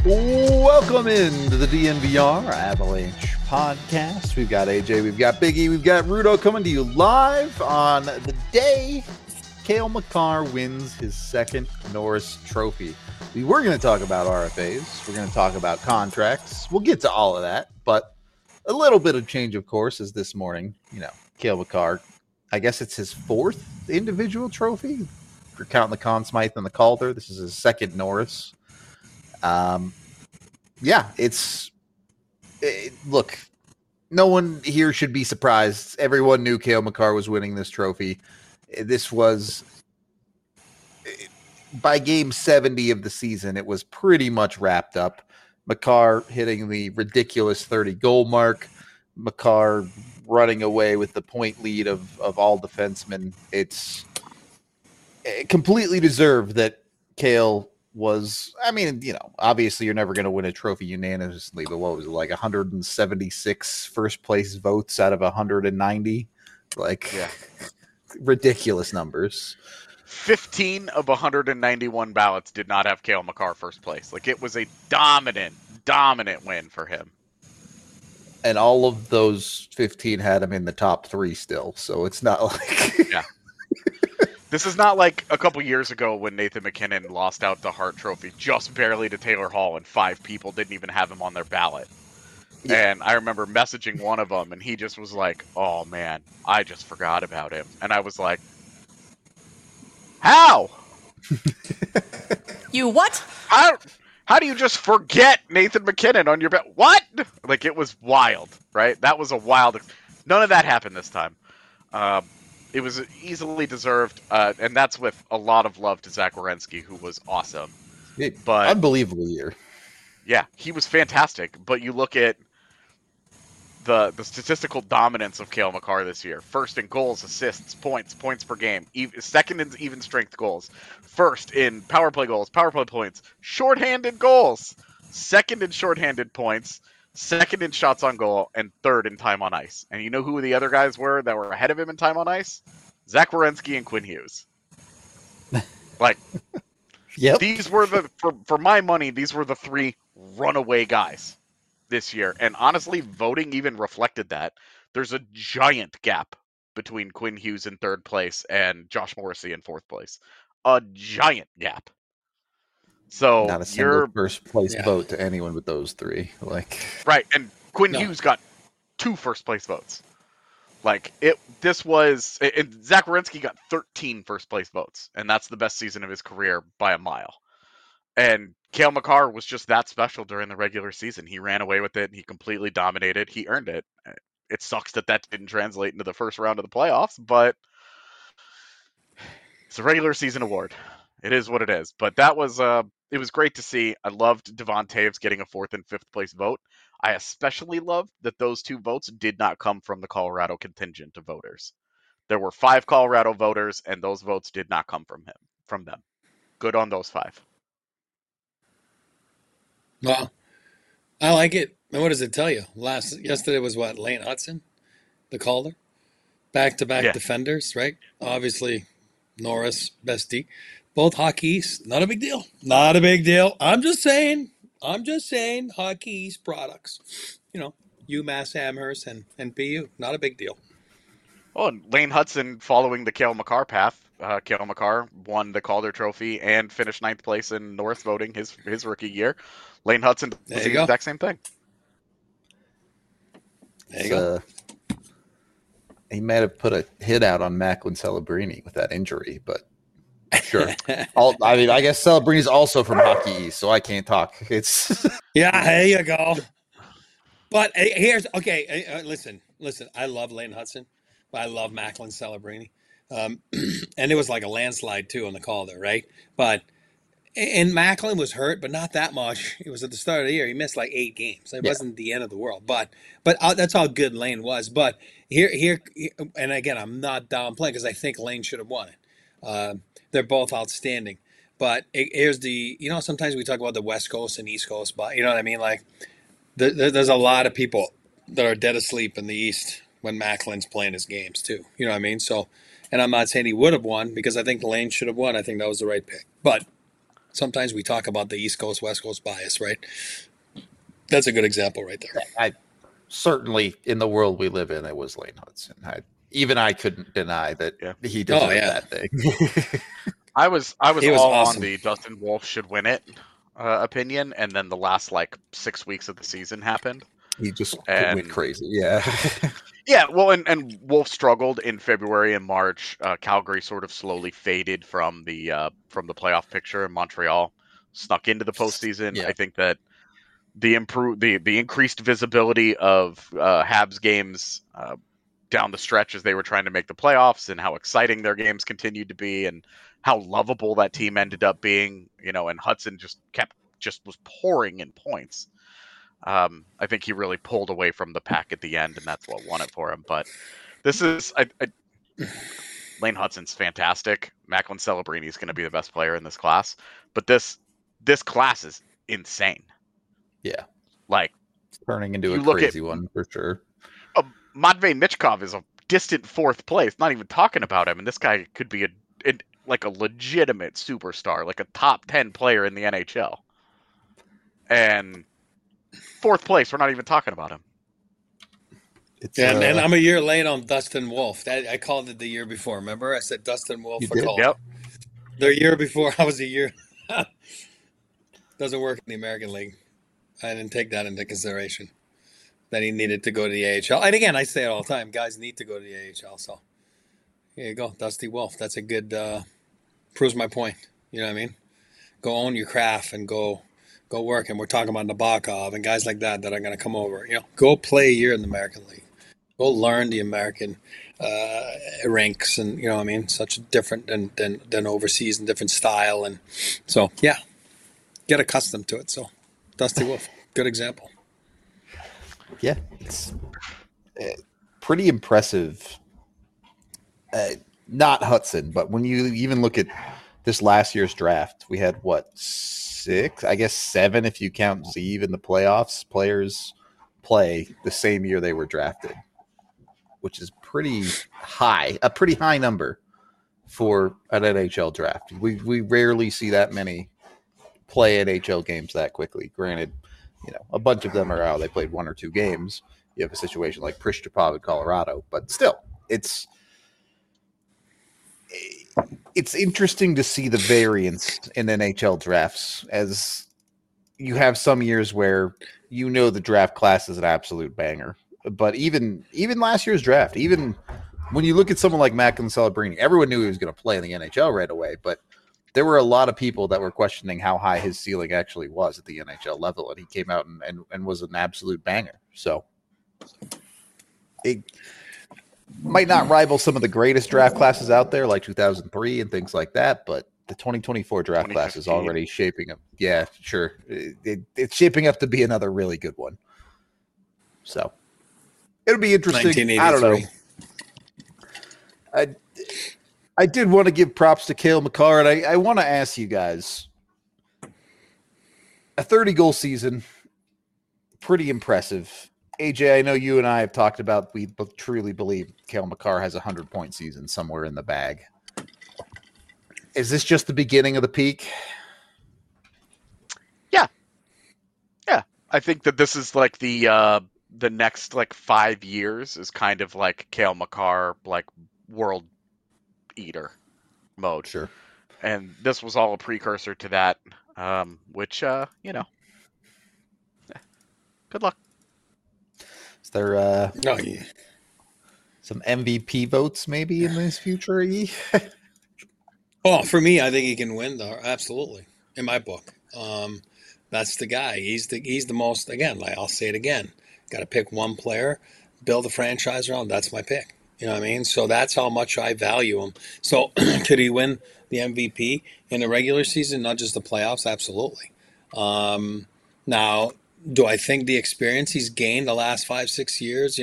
Welcome into the DNVR Avalanche podcast. We've got AJ, we've got Biggie, we've got Rudo coming to you live on the day Cale Makar wins his second Norris Trophy. We were going to talk about RFAs. We're going to talk about contracts. We'll get to all of that, but a little bit of change of course is this morning. Cale Makar, I guess it's his fourth individual trophy. If you're counting the Conn Smythe and the Calder, this is his second Norris. Look, no one here should be surprised. Everyone knew Cale Makar was winning this trophy. This was, by game 70 of the season, it was pretty much wrapped up. Makar hitting the ridiculous 30-goal mark. Makar running away with the point lead of all defensemen. It's completely deserved that Cale was, obviously you're never going to win a trophy unanimously, but what was it, like 176 first place votes out of 190? Ridiculous numbers. 15 of 191 ballots did not have Cale Makar first place. It was a dominant win for him. And all of those 15 had him in the top three still, so it's not like... Yeah. This is not like a couple years ago when Nathan MacKinnon lost out the Hart Trophy just barely to Taylor Hall and 5 people didn't even have him on their ballot. Yeah. And I remember messaging one of them and he just was like, "Oh man, I just forgot about him." And I was like, "How? You what? How do you just forget Nathan MacKinnon on your ballot? What?" It was wild, right? That was a wild... None of that happened this time. It was easily deserved, and that's with a lot of love to Zach Werenski, who was awesome. But unbelievable year. Yeah, he was fantastic. But you look at the statistical dominance of Cale Makar this year. First in goals, assists, points per game. Second in even strength goals. First in power play goals, power play points. Shorthanded goals. Second in shorthanded points. Second in shots on goal, and third in time on ice. And you know who the other guys were that were ahead of him in time on ice? Zach Werenski and Quinn Hughes. Yep. These were for my money, these were the 3 runaway guys this year. And honestly, voting even reflected that. There's a giant gap between Quinn Hughes in third place and Josh Morrissey in fourth place. A giant gap. So not a single first place vote to anyone but those 3. Right, and Quinn Hughes got 2 first place votes. And Zach Werenski got 13 first place votes, and that's the best season of his career by a mile. And Cale Makar was just that special during the regular season. He ran away with it, he completely dominated, he earned it. It sucks that didn't translate into the first round of the playoffs, but it's a regular season award. It is what it is. But that was it was great to see. I loved Devon Toews getting a 4th and 5th place vote. I especially loved that those 2 votes did not come from the Colorado contingent of voters. There were 5 Colorado voters, and those votes did not come from them. Good on those 5. Well, I like it. And what does it tell you? Yesterday was what? Lane Hutson, the Calder, back-to-back defenders, right? Obviously, Norris, best D. Both Hockey East. Not a big deal. Not a big deal. I'm just saying Hockey East products. UMass Amherst and PU. Not a big deal. Oh, and Lane Hutson following the Cale Makar path. Cale Makar won the Calder Trophy and finished 9th place in Norris voting his rookie year. Lane Hutson does the exact same thing. There you go. He might have put a hit out on Macklin Celebrini with that injury, but sure. I guess Celebrini's also from Hockey East, so I can't talk. It's yeah, there you go. But here's okay. Listen. I love Lane Hutson, but I love Macklin Celebrini, and it was like a landslide too on the Calder, right? And Macklin was hurt, but not that much. It was at the start of the year. He missed like 8 games. It wasn't the end of the world, but that's how good Lane was. But here, and again, I'm not downplaying because I think Lane should have won it. They're both outstanding. But here's sometimes we talk about the West Coast and East Coast, but you know what I mean? There's a lot of people that are dead asleep in the East when Macklin's playing his games too. You know what I mean? So, and I'm not saying he would have won because I think Lane should have won. I think that was the right pick. But sometimes we talk about the East Coast, West Coast bias, right? That's a good example right there. I certainly, in the world we live in, it was Lane Hudson. Even I couldn't deny that he deserved that thing. I was He was all awesome. on the Dustin Wolf should win it opinion, and then the last 6 weeks of the season happened. He just went crazy. Yeah. Yeah, well, and Wolf struggled in February and March. Calgary sort of slowly faded from the playoff picture, and Montreal snuck into the postseason. Yeah. I think that the increased visibility of Habs games down the stretch as they were trying to make the playoffs, and how exciting their games continued to be, and how lovable that team ended up being, and Hudson just was pouring in points. I think he really pulled away from the pack at the end, and that's what won it for him. But this is Lane Hudson's fantastic. Macklin Celebrini is going to be the best player in this class, but this class is insane. Yeah, like it's turning into a crazy one for sure. Matvei Michkov is a distant fourth place. Not even talking about him, and this guy could be a legitimate superstar, like a top 10 player in the NHL. And fourth place, we're not even talking about him. And I'm a year late on Dustin Wolf. I called it the year before. Remember, I said Dustin Wolf for call. Yep. The year before, I was a year. Doesn't work in the American League. I didn't take that into consideration. That he needed to go to the AHL. And again, I say it all the time. Guys need to go to the AHL. So here you go, Dusty Wolf. That's a good. Proves my point. You know what I mean? Go own your craft and go work. And we're talking about Nabokov and guys like that are going to come over. Go play a year in the American League. Go learn the American ranks, and you know what I mean. Such different than overseas, and different style, and so yeah, get accustomed to it. So, Dusty Wolf, good example. Yeah, it's pretty impressive. Not Hudson, but when you even look at this last year's draft, we had 6, I guess 7 if you count Zeev in the playoffs. Players play the same year they were drafted, which is a pretty high number for an NHL draft. We rarely see that many play NHL games that quickly. Granted, a bunch of them are out. They played 1 or 2 games. You have a situation like Prishchapov in Colorado, but still, it's interesting to see the variance in NHL drafts, as you have some years where the draft class is an absolute banger. But even last year's draft, even when you look at someone like Macklin Celebrini, everyone knew he was going to play in the NHL right away, but there were a lot of people that were questioning how high his ceiling actually was at the NHL level, and he came out and was an absolute banger. So it might not rival some of the greatest draft classes out there, like 2003 and things like that, but the 2024 draft class is already shaping up. Yeah, sure. It's shaping up to be another really good one. So it'll be interesting. I don't know. I did want to give props to Cale Makar, and I want to ask you guys, a 30-goal season, pretty impressive. AJ, I know you and I have talked about, we truly believe Cale Makar has a 100-point season somewhere in the bag. Is this just the beginning of the peak? Yeah. Yeah. I think that this is like the next 5 years is kind of like Cale Makar, world eater mode. Sure. And this was all a precursor to that, which, good luck. Is there some MVP votes maybe in this future? Oh, for me, I think he can win, though. Absolutely. In my book. That's the guy. He's the most, again, I'll say it again. Got to pick one player, build a franchise around. That's my pick. You know what I mean? So that's how much I value him. So could he win the MVP in the regular season, not just the playoffs? Absolutely. Now, do I think the experience he's gained the last 5-6 years,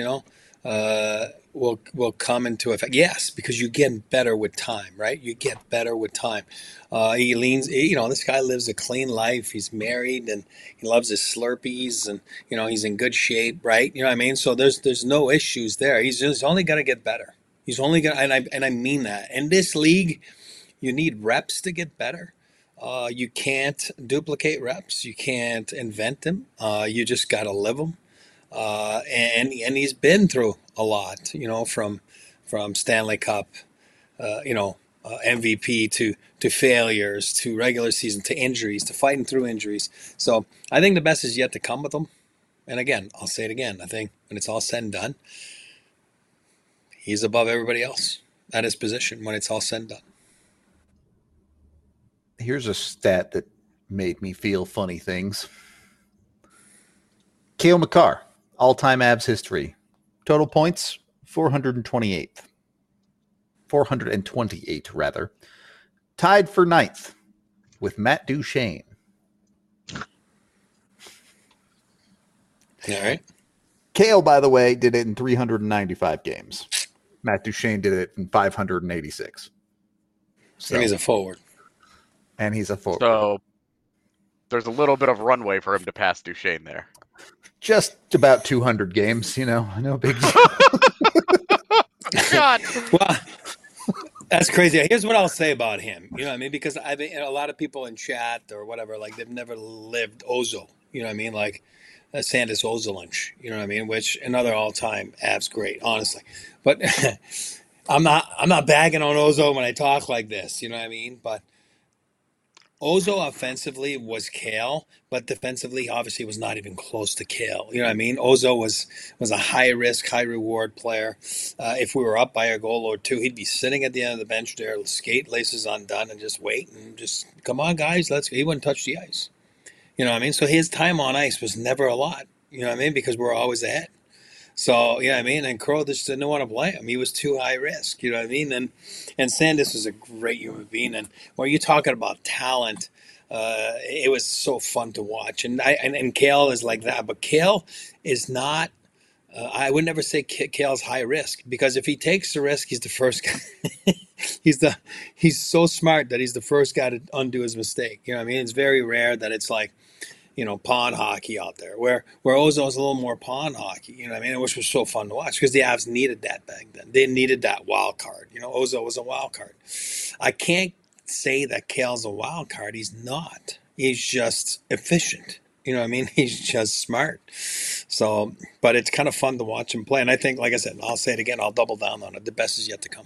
will come into effect? Yes, because you get better with time, right? You get better with time. This guy lives a clean life. He's married and he loves his Slurpees, and he's in good shape, right? You know what I mean? So there's no issues there. He's just only going to get better. He's only going to, and I mean that. In this league, you need reps to get better. You can't duplicate reps. You can't invent them. You just got to live them. And he's been through a lot, from Stanley Cup, MVP to failures, to regular season, to injuries, to fighting through injuries. So I think the best is yet to come with him. And again, I'll say it again. I think when it's all said and done, he's above everybody else at his position when it's all said and done. Here's a stat that made me feel funny things. Cale Makar, all-time Avs history. Total points, 428th. 428, rather. Tied for 9th with Matt Duchene. All right. Cale, by the way, did it in 395 games. Matt Duchene did it in 586. So, And he's a forward. So there's a little bit of runway for him to pass Duchene there. Just about 200 games, no big deal. God. Well, that's crazy. Here's what I'll say about him. You know what I mean? Because I've been, a lot of people in chat or whatever, like they've never lived Ozo. You know what I mean? Like Sandis Ozolinsh. You know what I mean? Which another all-time Avs great, honestly. But I'm not bagging on Ozo when I talk like this. You know what I mean? But Ozo offensively was Cale, but defensively obviously was not even close to Cale. You know what I mean? Ozo was a high-risk, high-reward player. If we were up by a goal or two, he'd be sitting at the end of the bench there, skate laces undone, and just wait and just, come on, guys, let's go. He wouldn't touch the ice. You know what I mean? So his time on ice was never a lot. You know what I mean? Because we're always ahead. So, you know what I mean? And Crow just didn't want to play him. He was too high risk, you know what I mean? And Sandis was a great human being. And when you're talking about talent, it was so fun to watch. And Cale is like that. But Cale is not, I would never say Cale's high risk, because if he takes the risk, he's the first guy. He's so smart that he's the first guy to undo his mistake. You know what I mean? It's very rare that it's like, pond hockey out there, where Ozo is a little more pond hockey, you know what I mean? Which was so fun to watch because the Avs needed that back then. They needed that wild card. Ozo was a wild card. I can't say that Cale's a wild card. He's not. He's just efficient. You know what I mean? He's just smart. So, but it's kind of fun to watch him play. And I think, like I said, I'll say it again, I'll double down on it. The best is yet to come.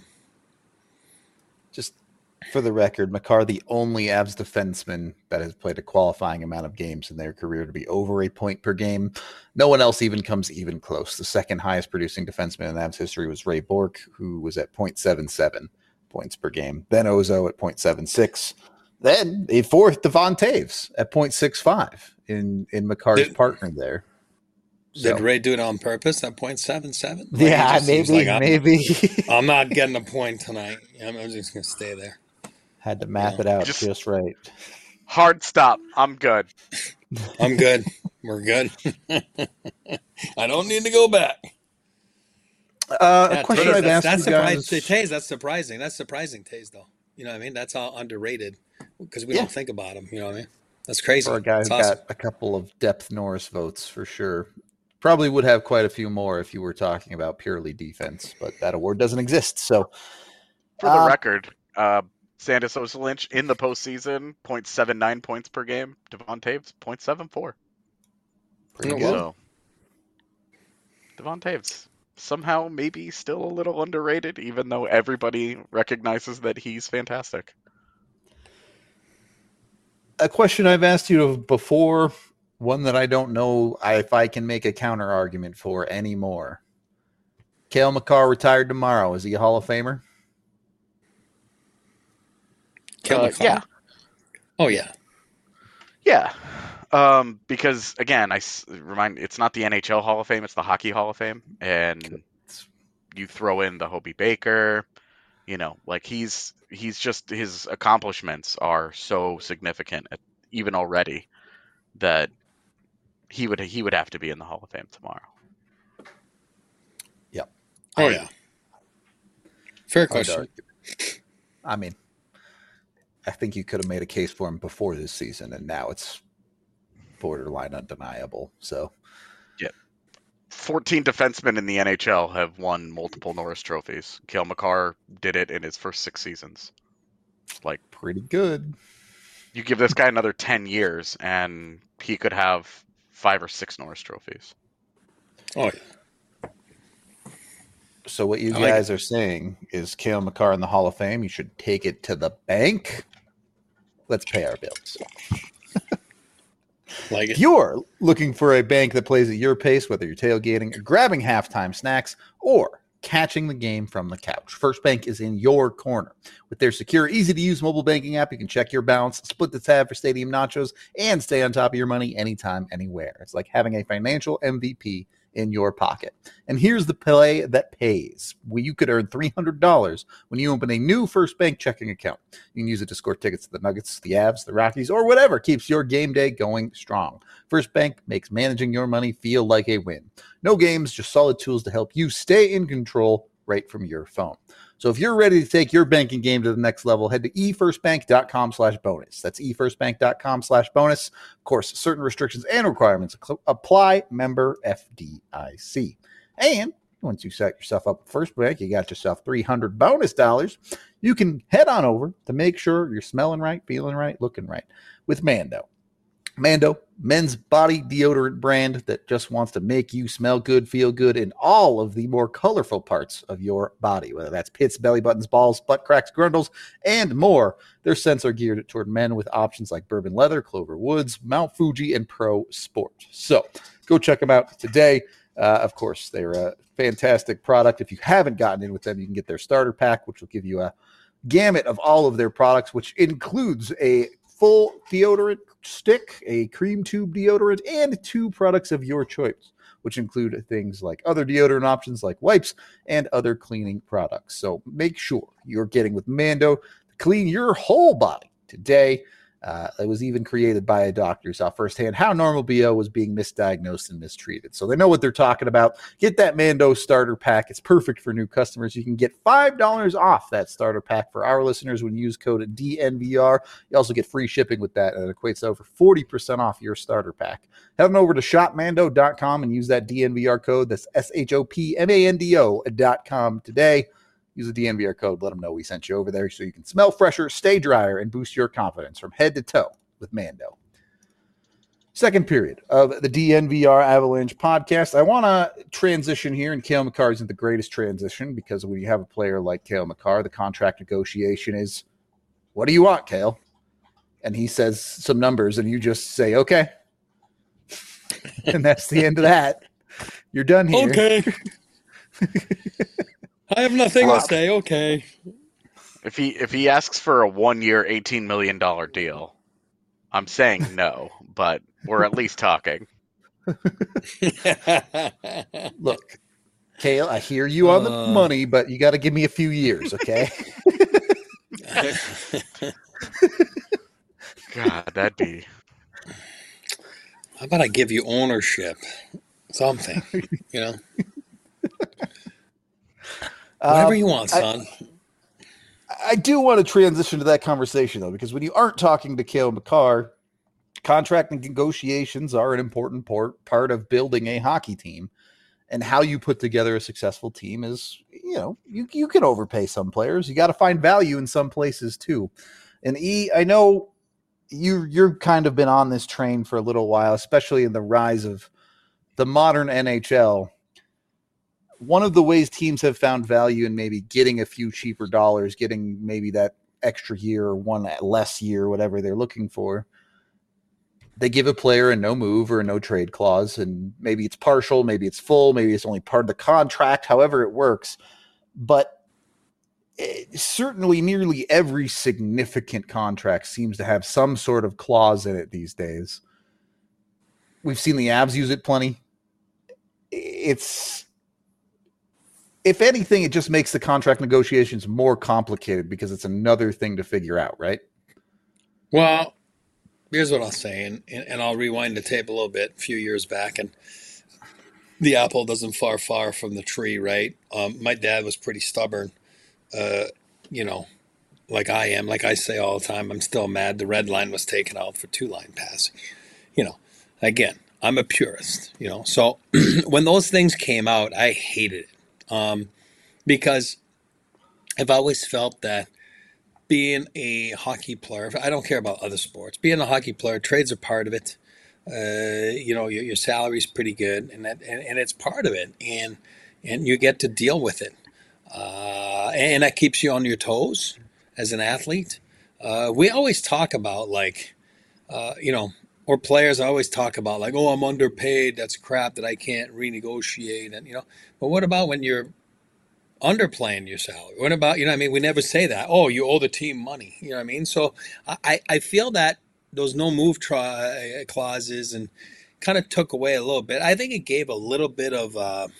Just for the record, Makar, the only Avs defenseman that has played a qualifying amount of games in their career to be over a point per game. No one else even comes even close. The second highest producing defenseman in Avs history was Ray Bourque, who was at 0.77 points per game. Then Ozo at 0.76. Then a fourth, Devon Taves at 0.65 in Makar's partner there. Did Ray do it on purpose at 0.77? Yeah, maybe. I'm not getting a point tonight. I'm just going to stay there. Had to map it out just right. Hard stop. I'm good. I'm good. We're good. I don't need to go back. A question I've asked you guys. Taze, that's surprising. That's surprising, Taze, though. You know what I mean? That's all underrated because we don't think about him. You know what I mean? That's crazy. For a guy who got a couple of depth Norris votes for sure. Probably would have quite a few more if you were talking about purely defense, but that award doesn't exist. So, for the record, Sandis Ozolinsh in the postseason, 0.79 points per game. Devon Taves, 0.74. Pretty good. So, Devon Taves, somehow maybe still a little underrated, even though everybody recognizes that he's fantastic. A question I've asked you before, one that I don't know if I can make a counter argument for anymore. Cale Makar retired tomorrow. Is he a Hall of Famer? Yeah. Oh, yeah. Yeah. Because, again, it's not the NHL Hall of Fame, it's the Hockey Hall of Fame. And you throw in the Hobie Baker, he's just, his accomplishments are so significant, even already, that he would have to be in the Hall of Fame tomorrow. Yep. Oh, yeah. Fair question. I mean, I think you could have made a case for him before this season, and now it's borderline undeniable. So, yeah, 14 defensemen in the NHL have won multiple Norris trophies. Cale Makar did it in his first 6 seasons. Pretty good. You give this guy another 10 years, and he could have 5 or 6 Norris trophies. Oh, yeah. So what you I like guys are saying is Cale Makar in the Hall of Fame. You should take it to the bank. Let's pay our bills. Like If it. you're looking for a bank that plays at your pace, whether you're tailgating, grabbing halftime snacks, or catching the game from the couch, First Bank is in your corner. With their secure, easy-to-use mobile banking app, you can check your balance, split the tab for stadium nachos, and stay on top of your money anytime, anywhere. It's like having a financial MVP in your pocket. And here's the play that pays. You could earn $300 when you open a new First Bank checking account. You can use it to score tickets to the Nuggets, the Avs, the Rockies, or whatever keeps your game day going strong. First Bank makes managing your money feel like a win. No games, just solid tools to help you stay in control right from your phone. So if you're ready to take your banking game to the next level, head to efirstbank.com/bonus. That's efirstbank.com/bonus. Of course, certain restrictions and requirements apply. Member FDIC. And once you set yourself up with First Bank, you got yourself $300 bonus dollars. You can head on over to make sure you're smelling right, feeling right, looking right with Mando. Mando, men's body deodorant brand that just wants to make you smell good, feel good in all of the more colorful parts of your body, whether that's pits, belly buttons, balls, butt cracks, grundles, and more. Their scents are geared toward men with options like Bourbon Leather, Clover Woods, Mount Fuji, and Pro Sport. So go check them out today. Of course, they're a fantastic product. If you haven't gotten in with them, you can get their starter pack, which will give you a gamut of all of their products, which includes a full deodorant stick, a cream tube deodorant, and 2 products of your choice, which include things like other deodorant options like wipes and other cleaning products. So make sure you're getting with Mando to clean your whole body today. It was even created by a doctor who saw firsthand how normal BO was being misdiagnosed and mistreated. So they know what they're talking about. Get that Mando starter pack. It's perfect for new customers. You can get $5 off that starter pack for our listeners when you use code DNVR. You also get free shipping with that, and it equates to over 40% off your starter pack. Head on over to shopmando.com and use that DNVR code. That's SHOPMANDO.com today. Use the DNVR code. Let them know we sent you over there so you can smell fresher, stay drier, and boost your confidence from head to toe with Mando. Second period of the DNVR Avalanche podcast. I want to transition here, and Cale Makar isn't the greatest transition because when you have a player like Cale Makar, the contract negotiation is, what do you want, Cale? And he says some numbers, and you just say, okay. And that's the end of that. You're done here. Okay. I have nothing to say. Okay. If he asks for a 1-year, $18 million deal, I'm saying no, but we're at least talking. Look, Cale, I hear you on the money, but you got to give me a few years, okay? God, that'd be... How about I give you ownership? Something, you know? Whatever you want, son. I do want to transition to that conversation, though, because when you aren't talking to Cale Makar, contract negotiations are an important part of building a hockey team. And how you put together a successful team is, you can overpay some players. You got to find value in some places, too. And I know you're kind of been on this train for a little while, especially in the rise of the modern NHL. One of the ways teams have found value in maybe getting a few cheaper dollars, getting maybe that extra year or one less year, whatever they're looking for, they give a player a no move or a no trade clause, and maybe it's partial, maybe it's full, maybe it's only part of the contract, however it works. But certainly nearly every significant contract seems to have some sort of clause in it these days. We've seen the Avs use it plenty. If anything, it just makes the contract negotiations more complicated because it's another thing to figure out, right? Well, here's what I'll say, and I'll rewind the tape a little bit, a few years back, and the apple doesn't far from the tree, right? My dad was pretty stubborn, like I am. Like I say all the time, I'm still mad the red line was taken out for 2-line passing. Again, I'm a purist, So when those things came out, I hated it. Because I've always felt that being a hockey player, I don't care about other sports. Being a hockey player, trades are part of it. Your salary's pretty good, and it's part of it, and you get to deal with it, and that keeps you on your toes as an athlete. We always talk about or players always talk about like, oh, I'm underpaid. That's crap that I can't renegotiate, and But what about when you're underplaying your salary? What about, we never say that. Oh, you owe the team money. You know what I mean? So I feel that those no move clauses and kind of took away a little bit. I think it gave a little bit of,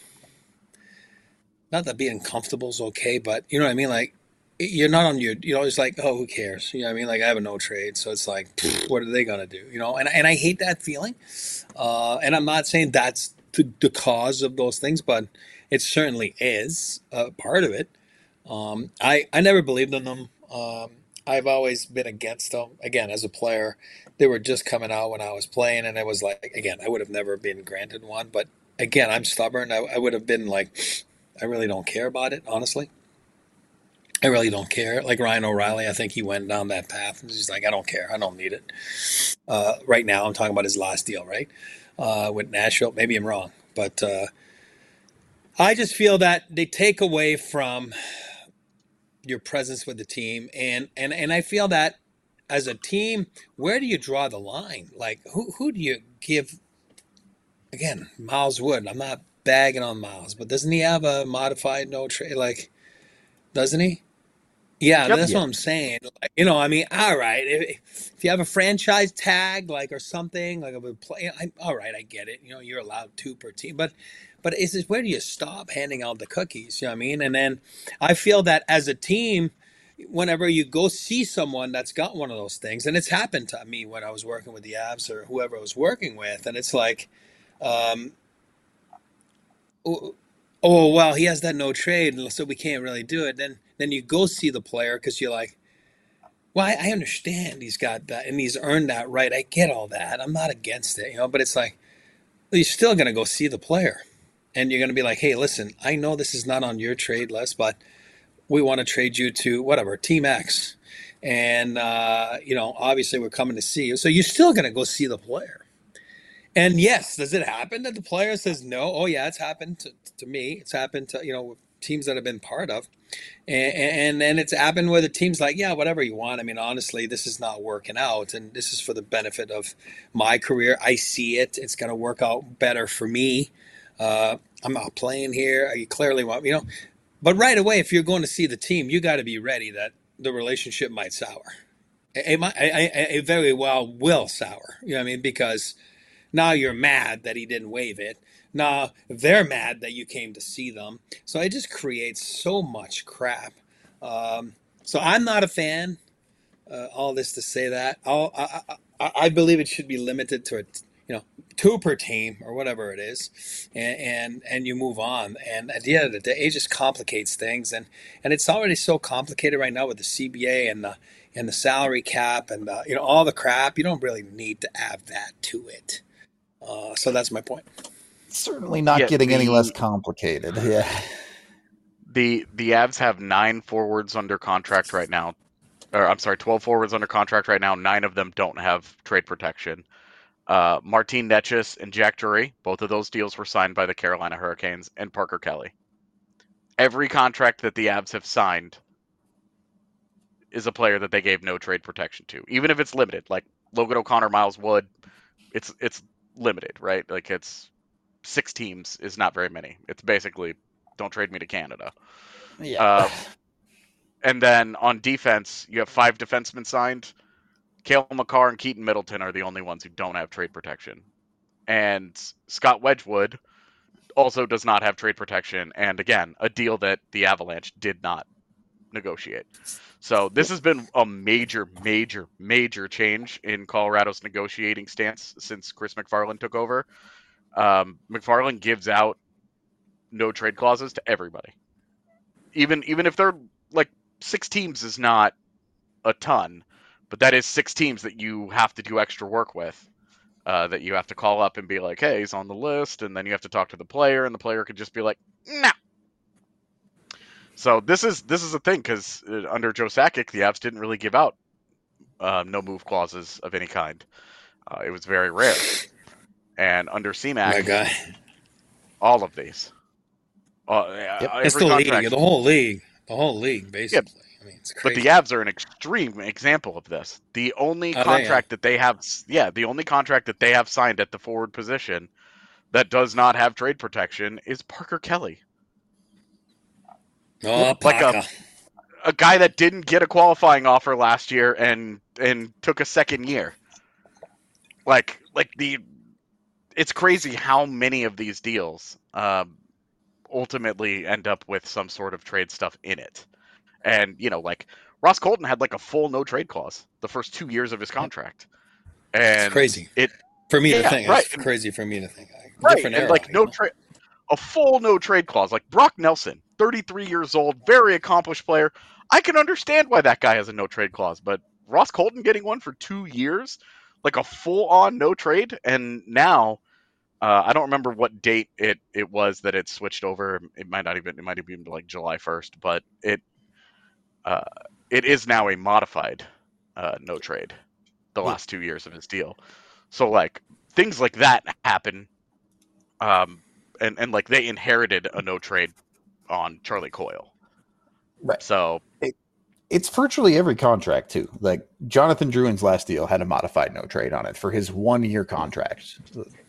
not that being comfortable is okay, but you know what I mean? Like, you're not on your, it's like, oh, who cares? You know what I mean? Like, I have a no trade. So it's like, what are they going to do? And I hate that feeling. And I'm not saying that's the cause of those things, but it certainly is a part of it. I never believed in them. I've always been against them. Again, as a player, they were just coming out when I was playing, and it was like, again, I would have never been granted one. But again, I'm stubborn. I would have been like, I really don't care about it, honestly. I really don't care. Like Ryan O'Reilly, I think he went down that path. He's like, I don't care. I don't need it. Right now, I'm talking about his last deal, right? With Nashville. Maybe I'm wrong. But I just feel that they take away from your presence with the team. And I feel that as a team, where do you draw the line? Like, who do you give? Again, Miles Wood. I'm not bagging on Miles, but doesn't he have a modified no trade? Like, doesn't he? Yeah, Yep. that's what I'm saying. Like, all right. If you have a franchise tag, like, or something, like a play, all right, I get it. You're allowed 2 per team, but is this, where do you stop handing out the cookies? You know what I mean? And then I feel that as a team, whenever you go see someone that's got one of those things, and it's happened to me when I was working with the Avs or whoever I was working with, and it's like, um, oh well, he has that no trade, so we can't really do it. Then you go see the player because you're like, well, I understand he's got that and he's earned that right. I get all that. I'm not against it, but it's like, well, you're still going to go see the player, and you're going to be like, hey, listen, I know this is not on your trade list, but we want to trade you to whatever Team X, and obviously we're coming to see you, so you're still going to go see the player. And yes, does it happen that the player says no? Oh yeah, it's happened to me. It's happened to teams that I've been part of, and it's happened where the team's like, yeah, whatever you want. I mean, honestly, this is not working out, and this is for the benefit of my career. I see it. It's going to work out better for me. I'm not playing here. You clearly want, but right away, if you're going to see the team, you got to be ready that the relationship might sour. It very well will sour. You know what I mean? Because now you're mad that he didn't waive it. Now they're mad that you came to see them. So it just creates so much crap. So I'm not a fan. All this to say that I believe it should be limited to 2 per team or whatever it is, and you move on. And at the end of the day, it just complicates things, and it's already so complicated right now with the CBA and the salary cap and all the crap. You don't really need to add that to it. So that's my point. Certainly not getting any less complicated. Yeah. The Avs have 9 forwards under contract right now. Or I'm sorry, 12 forwards under contract right now. 9 of them don't have trade protection. Martin Necas and Jack Drury, both of those deals were signed by the Carolina Hurricanes, and Parker Kelly. Every contract that the Avs have signed is a player that they gave no trade protection to, even if it's limited. Like Logan O'Connor, Miles Wood, it's limited, right? Like it's 6 teams is not very many. It's basically don't trade me to Canada. Yeah. And then on defense, you have 5 defensemen signed. Cale Makar and Keaton Middleton are the only ones who don't have trade protection. And Scott Wedgwood also does not have trade protection. And again, a deal that the Avalanche did not negotiate. So this has been a major, major, major change in Colorado's negotiating stance since Chris MacFarland took over. MacFarland gives out no trade clauses to everybody. Even if they're like 6 teams is not a ton, but that is 6 teams that you have to do extra work with, that you have to call up and be like, hey, he's on the list, and then you have to talk to the player, and the player could just be like, no. So this is a thing because under Joe Sakic, the Avs didn't really give out no move clauses of any kind. It was very rare. And under My CMAC, guy. all of these. It's Every the contract. league, the whole league, basically. I mean, it's But crazy. the Avs are an extreme example of this. The only contract that they have, the only contract that they have signed at the forward position that does not have trade protection is Parker Kelly. Oh, Like Parker. a guy that didn't get a qualifying offer last year and took a second year. It's crazy how many of these deals ultimately end up with some sort of trade stuff in it. And, like Ross Colton had like a full no trade clause the first 2 years of his contract. And It's crazy. For me to think. It's crazy for me to think. Different era. Like a full no trade clause. Like Brock Nelson, 33 years old, very accomplished player. I can understand why that guy has a no trade clause, but Ross Colton getting one for 2 years, like a full on no trade, and now I don't remember what date it was that it switched over. It might have been like July 1st, but it is now a modified no trade the last 2 years of his deal. So like things like that happen, and like they inherited a no trade on Charlie Coyle. Right. So it's virtually every contract too. Like Jonathan Drouin's last deal had a modified no trade on it for his 1 year contract.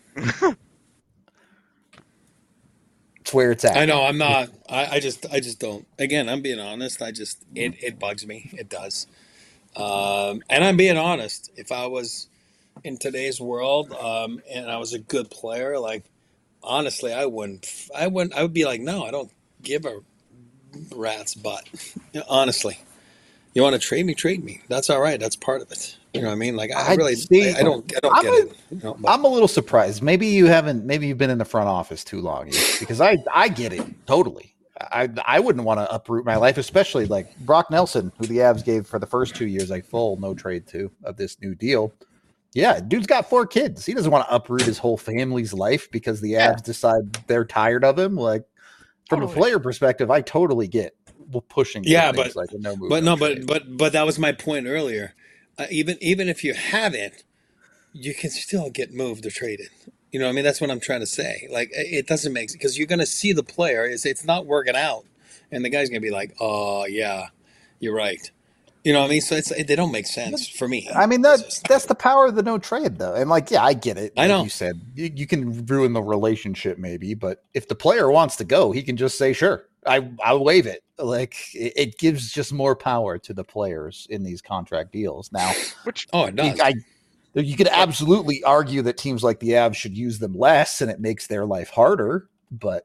It's where it's at. I know. I'm not. I just don't. Again, I'm being honest. It bugs me. It does. And I'm being honest. If I was in today's world, and I was a good player, like honestly, I would be like, no, I don't give a rat's butt. Honestly, you want to trade me? Trade me. That's all right. That's part of it. You know what I mean? Like I don't get it. I'm a little surprised. Maybe you've been in the front office too long, because I get it totally. I wouldn't want to uproot my life, especially like Brock Nelson, who the Avs gave for the first 2 years a full no trade to of this new deal. Yeah, dude's got 4 kids. He doesn't want to uproot his whole family's life because the Avs decide they're tired of him. Like from a player perspective, I totally get pushing. But like a but that was my point earlier. Even if you have it, you can still get moved or traded. You know what I mean? That's what I'm trying to say. Like it doesn't make sense because you're going to see the player it's not working out, and the guy's going to be like, "Oh yeah, you're right." You know what I mean? So they don't make sense for me. I mean that's the power of the no trade though, and like I get it. I know you said you can ruin the relationship maybe, but if the player wants to go, he can just say sure. I'll waive it. Like it gives just more power to the players in these contract deals now. It does. You could absolutely argue that teams like the Avs should use them less, and it makes their life harder. But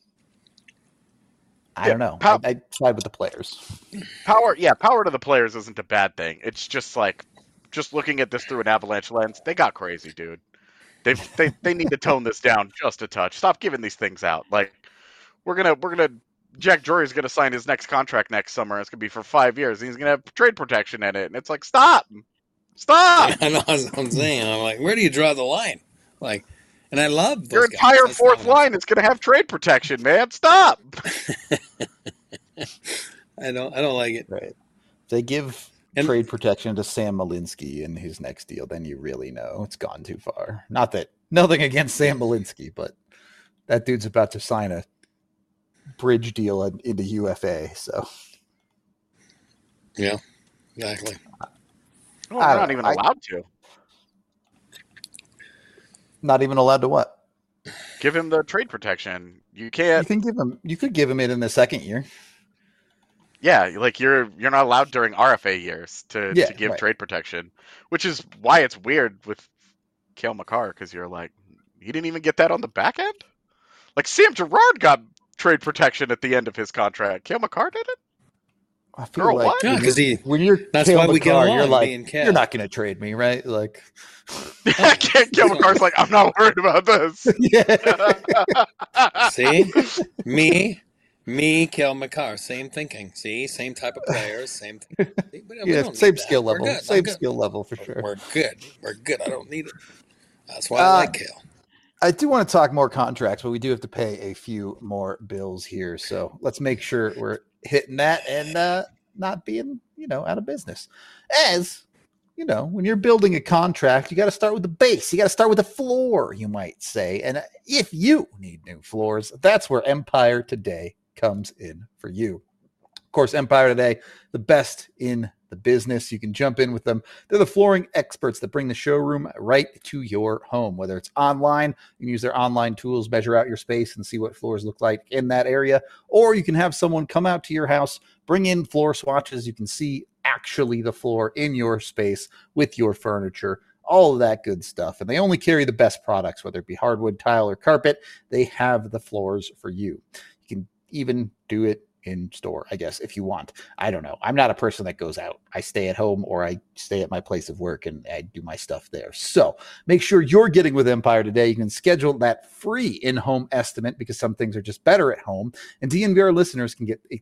I don't know. I side with the players. Power to the players isn't a bad thing. It's just like looking at this through an Avalanche lens. They got crazy, dude. They need to tone this down just a touch. Stop giving these things out. Like we're gonna. Jack Drury's going to sign his next contract next summer. It's going to be for 5 years. He's going to have trade protection in it. And it's like, stop. I know what I'm saying. I'm like, where do you draw the line? Like, and I love those your entire fourth line is going to have trade protection, man. Stop. I don't like it. Right. If they give trade protection to Sam Malinsky in his next deal, then you really know it's gone too far. Nothing against Sam Malinsky, but that dude's about to sign a bridge deal into UFA, so yeah, exactly. Well, they're not even allowed to. Not even allowed to what? Give him the trade protection. You can't. You could give him it in the second year. Yeah, like you're not allowed during RFA years to give trade protection, which is why it's weird with Cale Makar because you're like, he didn't even get that on the back end. Like Sam Girard got trade protection at the end of his contract. Cale Makar did it? I feel like because when you're that's Cale why we Makar, get along. You're like, you're not going to trade me, right? Like, Cale Makar's like, I'm not worried about this. See, me, Cale Makar, same thinking. See, same type of players, same thing. Same skill level, skill level for sure. We're good. I don't need it. That's why I like Cale. I do want to talk more contracts, but we do have to pay a few more bills here. So let's make sure we're hitting that and not being, out of business. As when you're building a contract, you got to start with the base. You got to start with the floor, you might say. And if you need new floors, that's where Empire Today comes in for you. Of course, Empire Today, the best in the business. You can jump in with them. They're the flooring experts that bring the showroom right to your home. Whether it's online, you can use their online tools, measure out your space and see what floors look like in that area. Or you can have someone come out to your house, bring in floor swatches. You can see actually the floor in your space with your furniture, all of that good stuff. And they only carry the best products, whether it be hardwood, tile, or carpet. They have the floors for you. You can even do it in store, I guess, if you want. I don't know. I'm not a person that goes out. I stay at home or I stay at my place of work and I do my stuff there. So make sure you're getting with Empire Today. You can schedule that free in-home estimate because some things are just better at home. And DNVR listeners can get a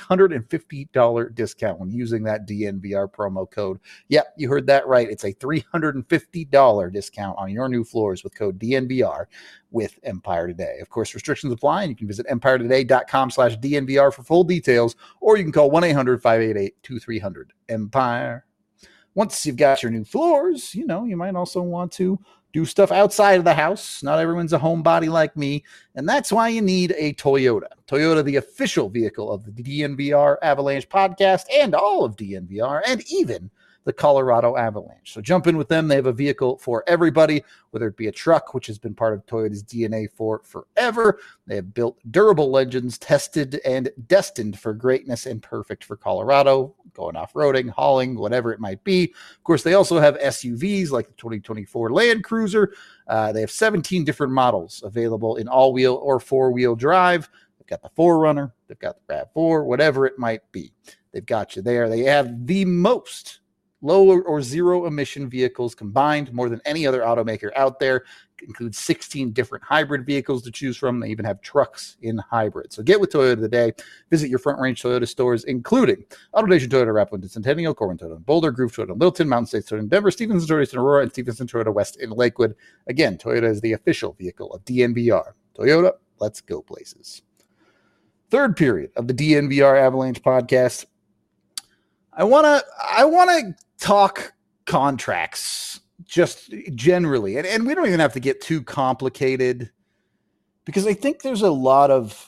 $350 discount when using that DNVR promo code. Yep, you heard that right. It's a $350 discount on your new floors with code DNVR with Empire Today. Of course, restrictions apply, and you can visit empiretoday.com/DNVR for full details, or you can call 1-800-588-2300 Empire. Once you've got your new floors, you might also want to do stuff outside of the house. Not everyone's a homebody like me, and that's why you need a Toyota. Toyota, the official vehicle of the DNVR Avalanche podcast and all of DNVR, and even the Colorado Avalanche. So jump in with them. They have a vehicle for everybody, whether it be a truck, which has been part of Toyota's DNA for forever. They have built durable legends, tested and destined for greatness and perfect for Colorado, going off-roading, hauling, whatever it might be. Of course, they also have SUVs like the 2024 Land Cruiser. They have 17 different models available in all-wheel or four-wheel drive. They've got the 4Runner. They've got the RAV4, whatever it might be. They've got you there. They have the most low or zero emission vehicles combined, more than any other automaker out there. It includes 16 different hybrid vehicles to choose from. They even have trucks in hybrid. So get with Toyota today. Visit your Front Range Toyota stores, including AutoNation Toyota, Rapid, Centennial, Corwin Toyota, Boulder, Groove Toyota, Littleton, Mountain States Toyota, Denver, Stevenson Toyota in Aurora, and Stevenson Toyota West in Lakewood. Again, Toyota is the official vehicle of DNVR. Toyota, let's go places. Third period of the DNVR Avalanche podcast. I want to talk contracts just generally, and we don't even have to get too complicated because I think there's a lot of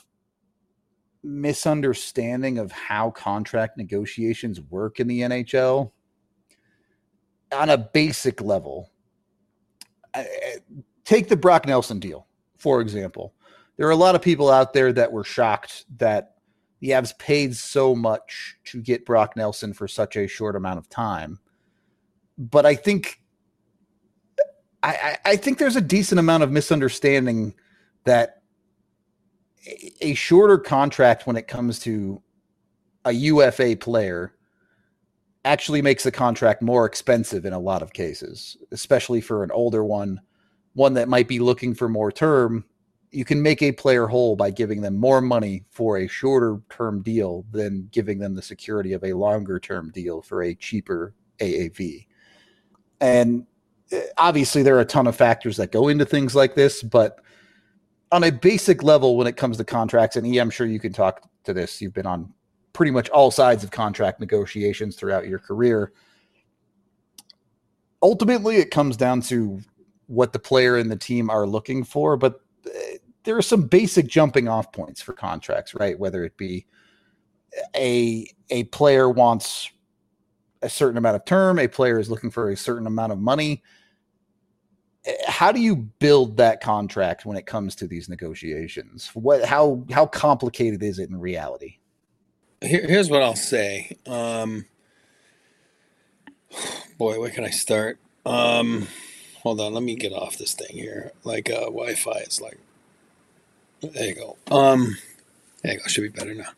misunderstanding of how contract negotiations work in the NHL on a basic level. Take the Brock Nelson deal, for example. There are a lot of people out there that were shocked that the Avs paid so much to get Brock Nelson for such a short amount of time. But I think there's a decent amount of misunderstanding that a shorter contract when it comes to a UFA player actually makes the contract more expensive in a lot of cases, especially for an older one that might be looking for more term. You can make a player whole by giving them more money for a shorter term deal than giving them the security of a longer term deal for a cheaper AAV. And obviously there are a ton of factors that go into things like this, but on a basic level, when it comes to contracts, and I'm sure you can talk to this, you've been on pretty much all sides of contract negotiations throughout your career. Ultimately, it comes down to what the player and the team are looking for, but there are some basic jumping off points for contracts, right? Whether it be a player wants a certain amount of term, a player is looking for a certain amount of money. How do you build that contract when it comes to these negotiations? How complicated is it in reality? Here's what I'll say. Boy, where can I start? Hold on, let me get off this thing here. Wi-Fi is like, there you go. There you go. Should be better now.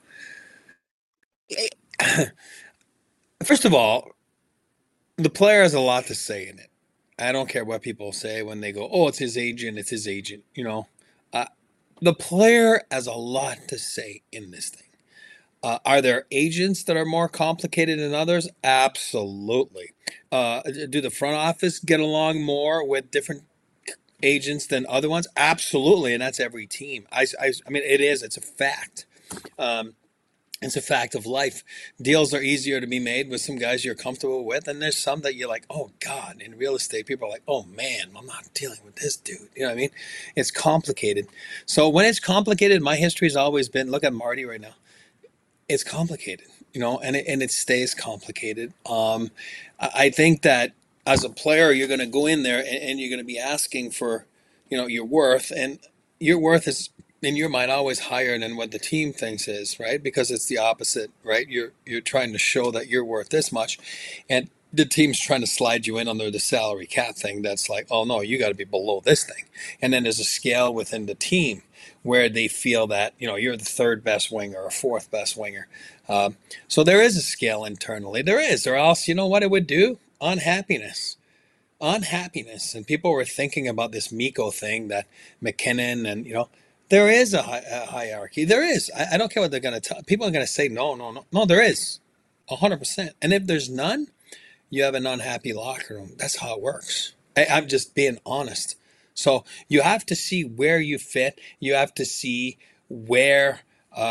First of all, the player has a lot to say in it. I don't care what people say when they go, "Oh, it's his agent. It's his agent." The player has a lot to say in this thing. Are there agents that are more complicated than others? Absolutely. Do the front office get along more with different agents than other ones? Absolutely, and that's every team. I mean, it's a fact. It's a fact of life. Deals are easier to be made with some guys you're comfortable with, and there's some that you're like, oh God. In real estate, people are like, oh man, I'm not dealing with this dude. You know what I mean? It's complicated. So when it's complicated, my history has always been, look at Marty right now. It's complicated, and it stays complicated. I think that as a player, you're going to go in there and you're going to be asking for, your worth, and your worth is in your mind always higher than what the team thinks is, right? Because it's the opposite, right? You're trying to show that you're worth this much, and the team's trying to slide you in under the salary cap thing. That's like, oh no, you got to be below this thing. And then there's a scale within the team where they feel that you're the third best winger or fourth best winger. So there is a scale internally. There is, or else you know what it would do? Unhappiness. And people were thinking about this Miko thing that McKinnon and there is a hierarchy. There is. I don't care what they're going to tell. People are going to say no. There is 100%. And if there's none, you have an unhappy locker room. That's how it works. I'm just being honest. So you have to see where you fit. You have to see where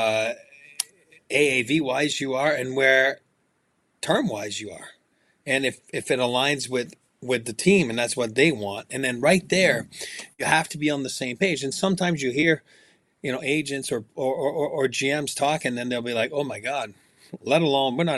AAV wise you are and where term wise you are. And if it aligns with the team and that's what they want, and then right there, you have to be on the same page. And sometimes you hear, agents or GMs talking, and they'll be like, oh my God, let alone we're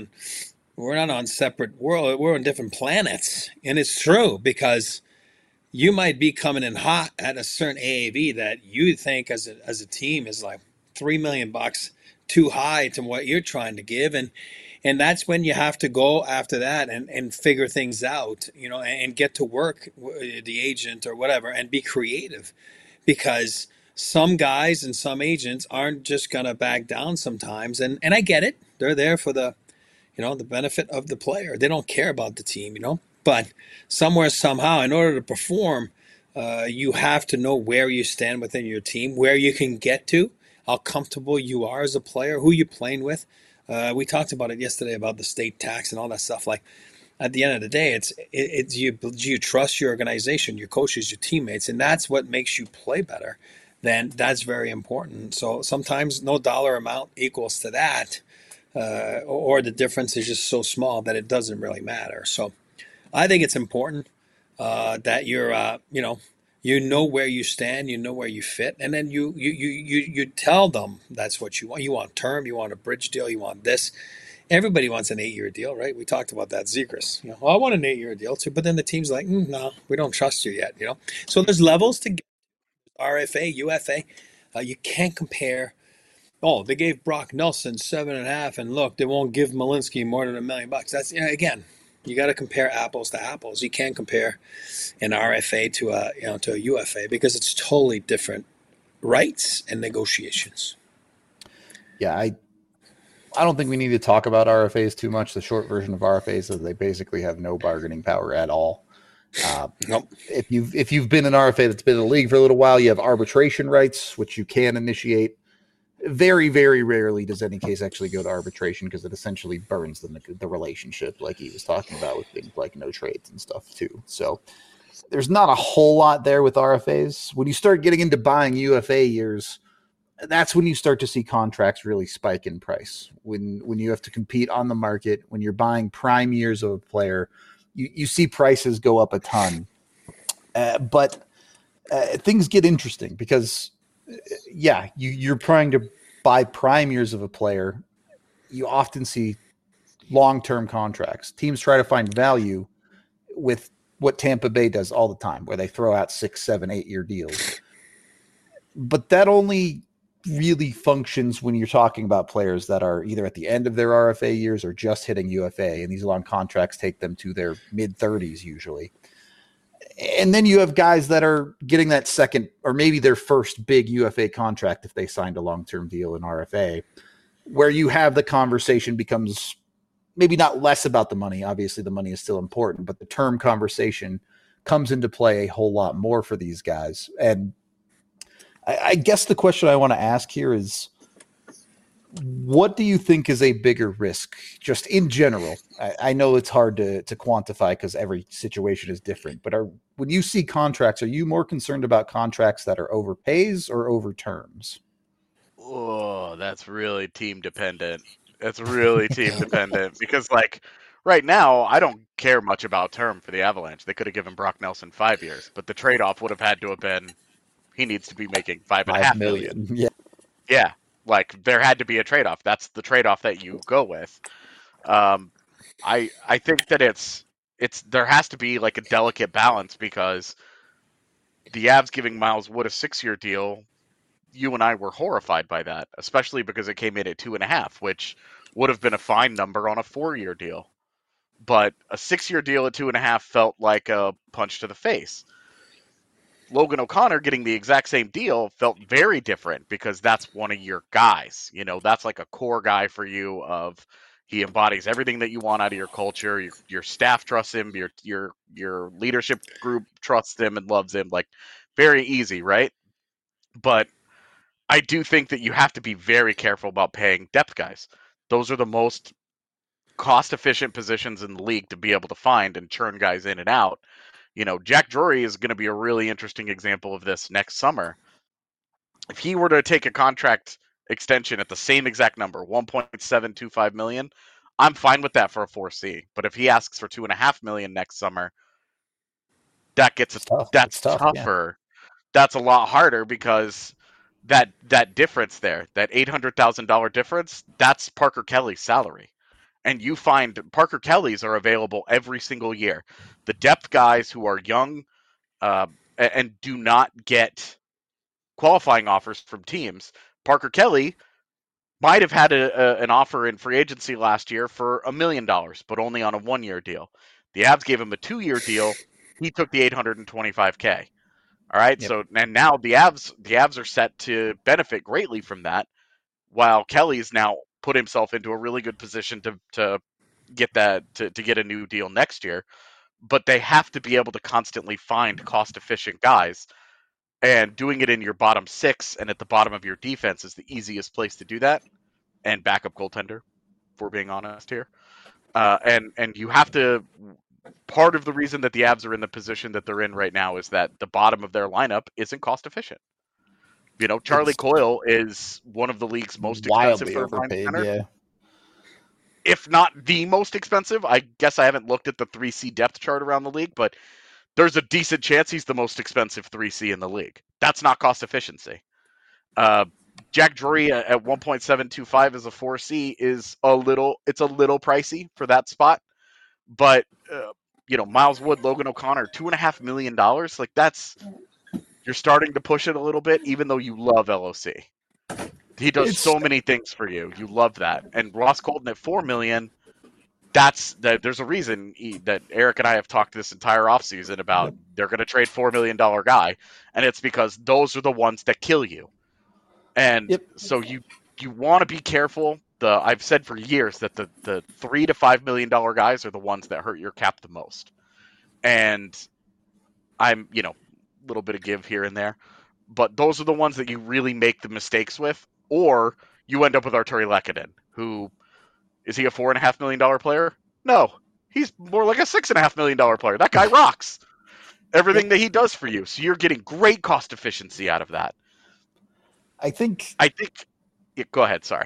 not on separate world. We're on different planets. And it's true, because you might be coming in hot at a certain AAV that you think as a team is like $3 million too high to what you're trying to give. And that's when you have to go after that and figure things out, and get to work, the agent or whatever, and be creative, because some guys and some agents aren't just going to back down sometimes. And I get it. They're there for the benefit of the player. They don't care about the team, but somewhere, somehow, in order to perform, you have to know where you stand within your team, where you can get to, how comfortable you are as a player, who you're playing with. We talked about it yesterday about the state tax and all that stuff. Like, at the end of the day, it's you trust your organization, your coaches, your teammates, and that's what makes you play better. Then that's very important. So sometimes no dollar amount equals to that, or the difference is just so small that it doesn't really matter. So I think it's important that you're, where you stand, where you fit, and then you tell them that's what you want. You want term, you want a bridge deal, you want this. Everybody wants an 8-year deal, right? We talked about that, Zegras. I want an 8-year deal too, but then the team's like, no, we don't trust you yet. So there's levels to RFA, UFA. You can't compare. Oh, they gave Brock Nelson 7.5, and look, they won't give Malinsky more than $1 million. That's again. You got to compare apples to apples. You can't compare an RFA to a UFA, because it's totally different rights and negotiations. Yeah, I don't think we need to talk about RFAs too much. The short version of RFAs is they basically have no bargaining power at all. Nope. If you've been an RFA that's been in the league for a little while, you have arbitration rights, which you can initiate. Very, very rarely does any case actually go to arbitration, because it essentially burns the relationship, like he was talking about with things like no trades and stuff too. So there's not a whole lot there with RFAs. When you start getting into buying UFA years, that's when you start to see contracts really spike in price. When you have to compete on the market, when you're buying prime years of a player, you see prices go up a ton. But things get interesting, because you're trying to buy prime years of a player. You often see long-term contracts. Teams try to find value with what Tampa Bay does all the time, where they throw out 6, 7, 8-year deals. But that only really functions when you're talking about players that are either at the end of their RFA years or just hitting UFA, and these long contracts take them to their mid-30s usually. And then you have guys that are getting that second or maybe their first big UFA contract if they signed a long-term deal in RFA, where you have the conversation becomes maybe not less about the money. Obviously, the money is still important, but the term conversation comes into play a whole lot more for these guys. And I guess the question I want to ask here is, what do you think is a bigger risk, just in general? I know it's hard to quantify because every situation is different, but when you see contracts, are you more concerned about contracts that are over pays or over terms? Oh, that's really team dependent. That's really team dependent because, like, right now, I don't care much about term for the Avalanche. They could have given Brock Nelson 5 years, but the trade-off would have had to have been he needs to be making 5.5 million. Yeah. Yeah, like there had to be a trade-off. That's the trade-off that you go with. I think that it's there has to be like a delicate balance because the Avs giving Miles Wood a 6-year deal, you and I were horrified by that, especially because it came in at 2.5, which would have been a fine number on a 4-year deal. But a 6-year deal at 2.5 felt like a punch to the face. Logan O'Connor getting the exact same deal felt very different because that's one of your guys. You know, that's like a core guy for you. Of he embodies everything that you want out of your culture. Your staff trusts him. Your leadership group trusts him and loves him. Like very easy, right? But I do think that you have to be very careful about paying depth guys. Those are the most cost efficient positions in the league to be able to find and churn guys in and out. You know, Jack Drury is going to be a really interesting example of this next summer. If he were to take a contract extension at the same exact number, 1.725 million, I'm fine with that for a 4C. But if he asks for 2.5 million next summer, that gets that's tough, tougher. That's a lot harder because that difference there, that $800,000 difference, that's Parker Kelly's salary. And you find Parker Kelly's are available every single year. The depth guys who are young and do not get qualifying offers from teams. Parker Kelly might have had an offer in free agency last year for $1 million, but only on a 1-year deal. The Avs gave him a 2-year deal. He took the $825K. All right. Yep. So and now the Avs are set to benefit greatly from that, while Kelly's now put himself into a really good position to get that to get a new deal next year. But they have to be able to constantly find cost efficient guys. And doing it in your bottom 6 and at the bottom of your defense is the easiest place to do that. And backup goaltender, if we're being honest here. And you have to. Part of the reason that the Avs are in the position that they're in right now is that the bottom of their lineup isn't cost efficient. You know, Charlie Coyle is one of the league's most expensive third-line center. Yeah. If not the most expensive. I guess I haven't looked at the 3C depth chart around the league, but there's a decent chance he's the most expensive 3C in the league. That's not cost efficiency. Jack Drury at 1.725 as a 4C is a little pricey for that spot. But, you know, Miles Wood, Logan O'Connor, $2.5 million. Like you're starting to push it a little bit, even though you love LOC. He does so many things for you. You love that. And Ross Colton at $4 million. There's a reason that Eric and I have talked this entire offseason about they're going to trade $4 million guy, and it's because those are the ones that kill you. And so you want to be careful. I've said for years that the $3 to $5 million guys are the ones that hurt your cap the most. And I'm, you know, a little bit of give here and there, but those are the ones that you really make the mistakes with, or you end up with Arturi Lehkonen, who is he a $4.5 million player? No, he's more like a $6.5 million player. That guy rocks everything that he does for you. So you're getting great cost efficiency out of that. I think. Yeah, go ahead. Sorry.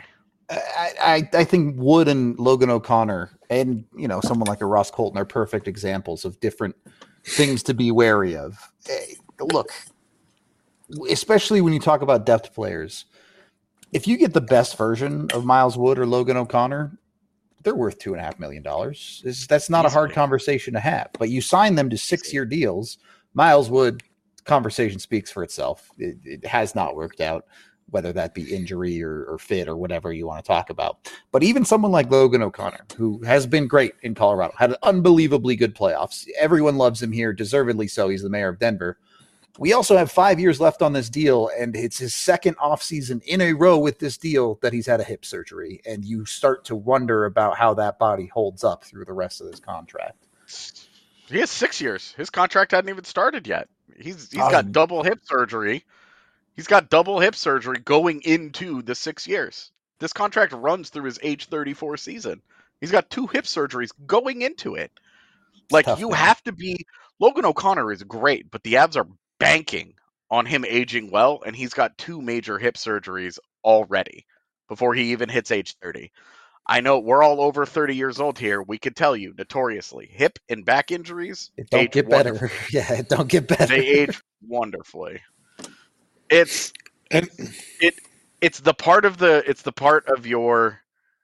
I think Wood and Logan O'Connor and, you know, someone like a Ross Colton are perfect examples of different things to be wary of. Look, especially when you talk about depth players, if you get the best version of Miles Wood or Logan O'Connor, they're worth $2.5 million. That's not a hard conversation to have. But you sign them to 6-year deals. Miles Wood, conversation speaks for itself. It has not worked out, whether that be injury or fit or whatever you want to talk about. But even someone like Logan O'Connor, who has been great in Colorado, had an unbelievably good playoffs. Everyone loves him here, deservedly so. He's the mayor of Denver. We also have 5 years left on this deal, and it's his second offseason in a row with this deal that he's had a hip surgery. And you start to wonder about how that body holds up through the rest of this contract. He has 6 years. His contract hadn't even started yet. He's got double hip surgery. He's got double hip surgery going into the 6 years. This contract runs through his age 34 season. He's got 2 hip surgeries going into it. Like, you have to be... Logan O'Connor is great, but the Avs are banking on him aging well, and he's got 2 major hip surgeries already before he even hits age 30. I know we're all over 30 years old here. We could tell you notoriously, hip and back injuries It don't get better. Yeah, it don't get better. They age wonderfully. It's And the part of your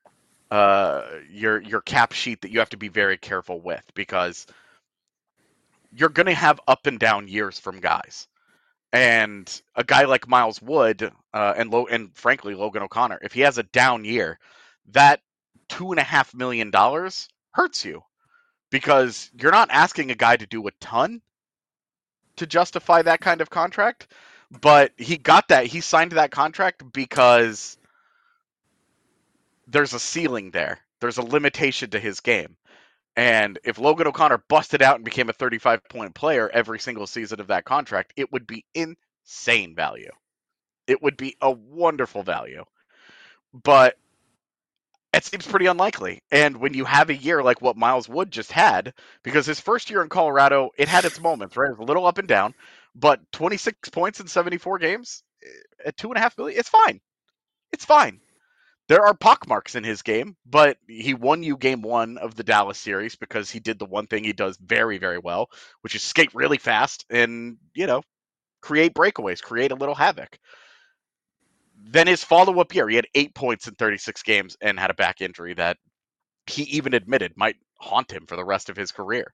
cap sheet that you have to be very careful with, because you're going to have up and down years from guys. And a guy like Miles Wood and frankly Logan O'Connor, if he has a down year, that $2.5 million hurts you, because you're not asking a guy to do a ton to justify that kind of contract. But he signed that contract because there's a ceiling there. There's a limitation to his game. And if Logan O'Connor busted out and became a 35-point player every single season of that contract, it would be insane value. It would be a wonderful value. But it seems pretty unlikely. And when you have a year like what Miles Wood just had, because his first year in Colorado, it had its moments, right? It was a little up and down, but 26 points in 74 games at $2.5 million, it's fine. It's fine. There are pockmarks in his game, but he won you game 1 of the Dallas series because he did the one thing he does very, very well, which is skate really fast and, create breakaways, create a little havoc. Then his follow-up year, he had 8 points in 36 games and had a back injury that he even admitted might haunt him for the rest of his career.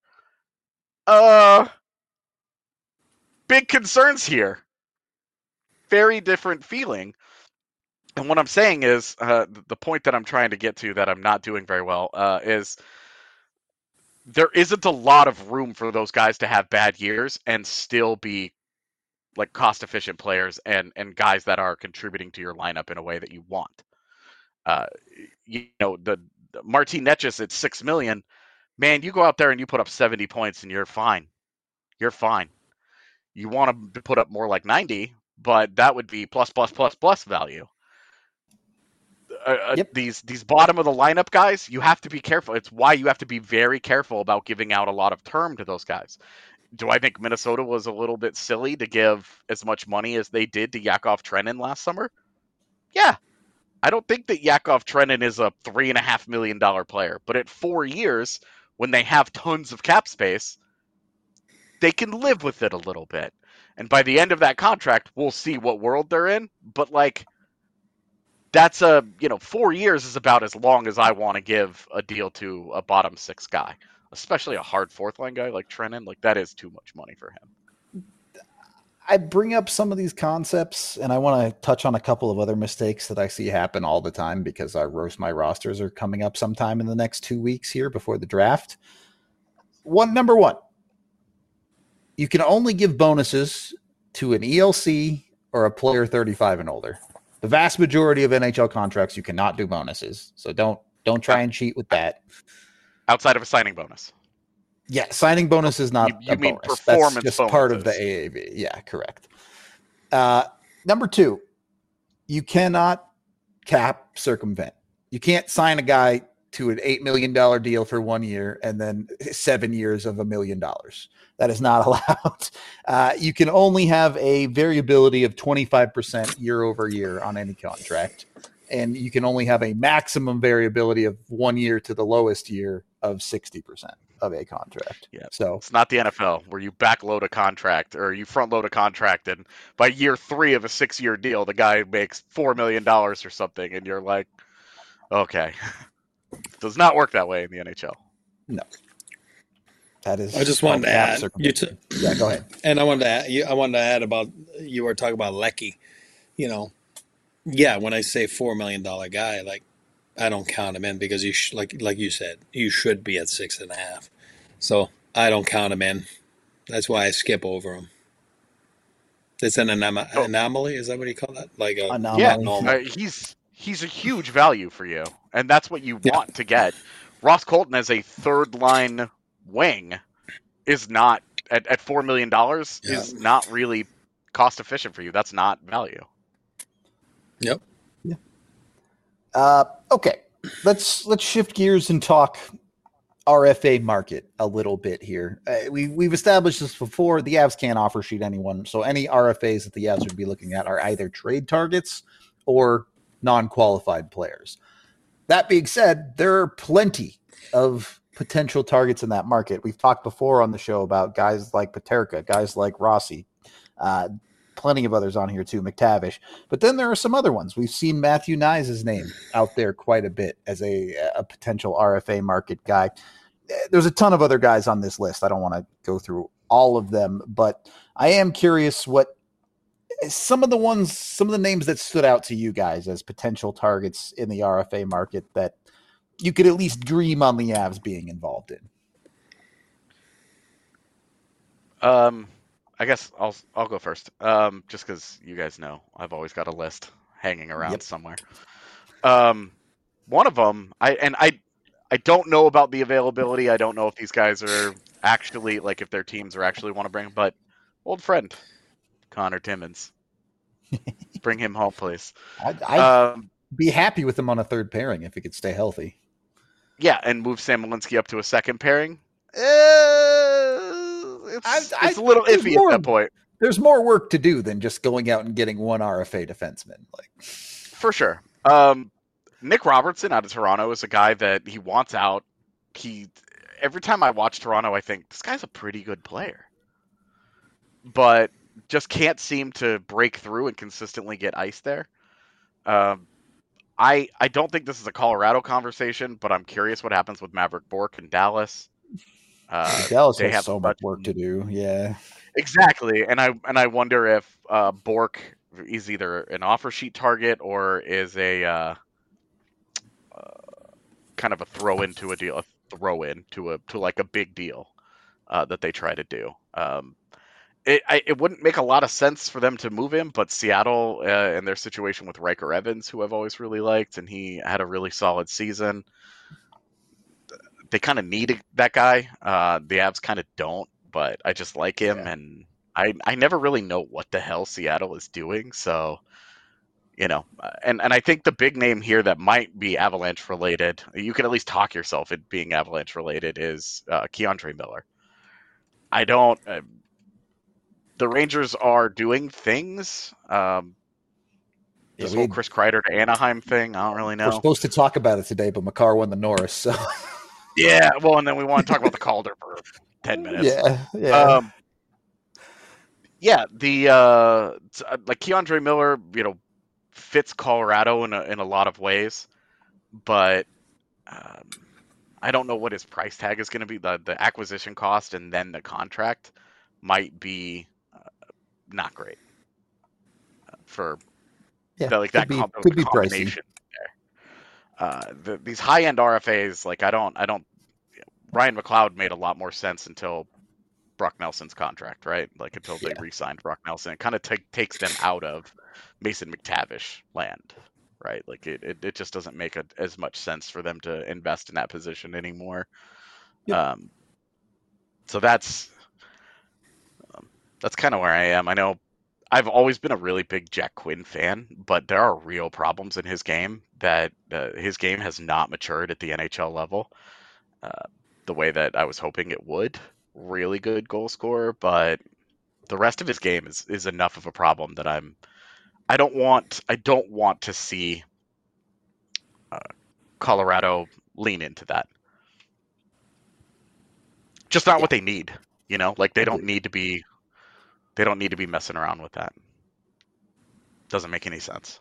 Big concerns here. Very different feeling. And what I'm saying is, the point that I'm trying to get to that I'm not doing very well is there isn't a lot of room for those guys to have bad years and still be like cost-efficient players and guys that are contributing to your lineup in a way that you want. The Martin Necas at $6 million, man, you go out there and you put up 70 points and you're fine. You're fine. You want to put up more like 90, but that would be plus value. Yep. These bottom of the lineup guys, you have to be careful. It's why you have to be very careful about giving out a lot of term to those guys. Do I think Minnesota was a little bit silly to give as much money as they did to Yakov Trenin last summer? Yeah. I don't think that Yakov Trenin is a $3.5 million player, but at 4 years, when they have tons of cap space, they can live with it a little bit. And by the end of that contract, we'll see what world they're in. But that's 4 years is about as long as I want to give a deal to a bottom 6 guy, especially a hard 4th line guy like Trenin. That is too much money for him. I bring up some of these concepts, and I want to touch on a couple of other mistakes that I see happen all the time because our Roast My Rosters are coming up sometime in the next 2 weeks here before the draft. Number one, you can only give bonuses to an ELC or a player 35 and older. The vast majority of NHL contracts, you cannot do bonuses. So don't try and cheat with that. Outside of a signing bonus. Yeah, signing bonus is not you a mean bonus. Performance That's just bonuses. part of the AAV. Yeah, correct. Number two, you cannot cap circumvent. You can't sign a guy to an $8 million deal for 1 year and then 7 years of $1 million. That is not allowed. You can only have a variability of 25% year over year on any contract. And you can only have a maximum variability of 1 year to the lowest year of 60% of a contract. Yeah. So it's not the NFL where you backload a contract or you front load a contract, and by year 3 of a 6-year deal, the guy makes $4 million or something, and you're like, okay. It does not work that way in the NHL. No. That is. I just wanted to add. Yeah, go ahead. And I wanted to add about, you were talking about Lecky. Yeah, when I say $4 million guy, I don't count him in because like you said, you should be at 6.5. So I don't count him in. That's why I skip over him. It's an anomaly. Is that what you call that? Anomaly. Yeah, he's a huge value for you, and that's what you want to get. Ross Colton as a 3rd line wing is not at $4 million is not really cost efficient for you. That's not value. Yep. Yeah. Okay. Let's shift gears and talk RFA market a little bit here. We've established this before. The Avs can't offer sheet anyone, so any RFAs that the Avs would be looking at are either trade targets or non-qualified players. That being said, there are plenty of potential targets in that market. We've talked before on the show about guys like Paterka, guys like Rossi, plenty of others on here too, McTavish. But then there are some other ones. We've seen Matthew Nyes' name out there quite a bit as a potential RFA market guy. There's a ton of other guys on this list. I don't want to go through all of them, but I am curious what some of the names that stood out to you guys as potential targets in the RFA market that you could at least dream on the Avs being involved in. I guess I'll go first. Just because you guys know I've always got a list hanging around somewhere. One of them, I don't know about the availability. I don't know if these guys are actually, like, if their teams are actually want to bring, but old friend Connor Timmins, bring him home, please. I'd be happy with him on a third pairing if he could stay healthy. Yeah, and move Sam Malinsky up to a second pairing. It's a little iffy at that point. There's more work to do than just going out and getting one RFA defenseman. For sure. Nick Robertson out of Toronto is a guy that he wants out. Every time I watch Toronto, I think this guy's a pretty good player, but just can't seem to break through and consistently get ice there. I don't think this is a Colorado conversation, but I'm curious what happens with Maverick Bourque in Dallas. Dallas has so much work to do. Yeah, exactly. And I wonder if Bourque is either an offer sheet target or is a kind of a throw into a deal, to like a big deal that they try to do. It wouldn't make a lot of sense for them to move him, but Seattle and their situation with Riker Evans, who I've always really liked, and he had a really solid season. They kind of need that guy. The Avs kind of don't, but I just like him, and I never really know what the hell Seattle is doing. So, and I think the big name here that might be Avalanche related, you can at least talk yourself into being Avalanche related, is Keandre Miller. I don't. The Rangers are doing things. This whole Chris Kreider to Anaheim thing, I don't really know. We're supposed to talk about it today, but Makar won the Norris, so. Yeah, well, and then we want to talk about the Calder for 10 minutes. Yeah. Like Keandre Miller, fits Colorado in a lot of ways, but I don't know what his price tag is going to be. The acquisition cost and then the contract might be not great for that could be combination there. These high end RFAs, like I don't. Ryan McLeod made a lot more sense until Brock Nelson's contract, right? Like until they re-signed Brock Nelson, it kind of takes them out of Mason McTavish land, right? Like it just doesn't make as much sense for them to invest in that position anymore. Yep. So that's kind of where I am. I know I've always been a really big Jack Quinn fan, but there are real problems in his game that his game has not matured at the NHL level the way that I was hoping it would. Really good goal scorer, but the rest of his game is enough of a problem that I don't want to see Colorado lean into that. Just not what they need, like they don't need to be messing around with that. Doesn't make any sense.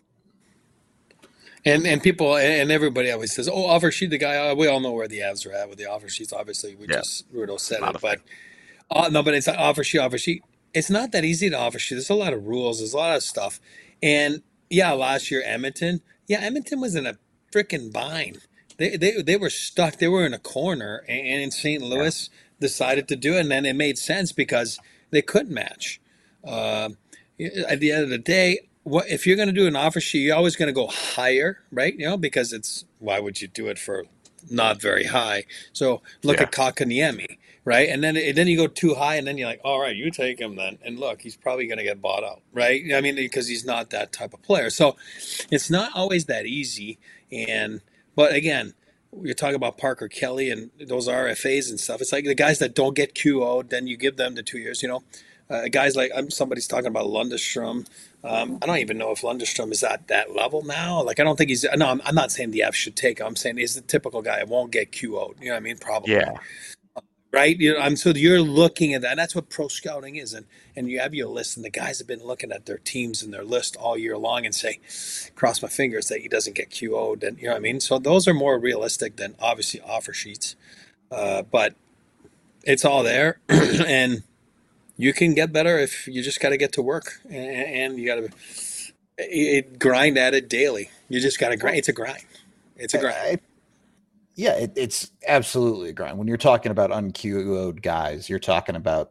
And people and everybody always says, "Oh, offer sheet, the guy." We all know where the Avs are at with the offer sheets. Obviously, Rudo said it, but no, but it's an offer sheet. Offer sheet. It's not that easy to offer sheet. There's a lot of rules. There's a lot of stuff. And last year Edmonton was in a freaking bind. They were stuck. They were in a corner, and in St. Louis decided to do it, and then it made sense because they couldn't match. At the end of the day, if you're going to do an offer sheet, you're always going to go higher, right? Because why would you do it for not very high? So look at Kotkaniemi, right? And then you go too high, and then you're like, all right, you take him then. And look, he's probably going to get bought out, right? I mean, because he's not that type of player. So it's not always that easy. But again, you're talking about Parker Kelly and those RFAs and stuff. It's like the guys that don't get QO'd, then you give them the 2 years, Guys like somebody's talking about Lundestrom. I don't even know if Lundestrom is at that level now. Like I don't think he's. No, I'm not saying the F should take him. I'm saying he's the typical guy. Won't get QO'd. You know what I mean? Probably. Yeah. Right. So you're looking at that. And that's what pro scouting is, and you have your list, and the guys have been looking at their teams and their list all year long, and say, cross my fingers that he doesn't get QO'd. And you know what I mean? So those are more realistic than obviously offer sheets, but it's all there, and you can get better if you just got to get to work, and you got to grind at it daily. You just got to grind. It's a grind. It's a grind. It's absolutely a grind. When you're talking about unQO'd guys, you're talking about,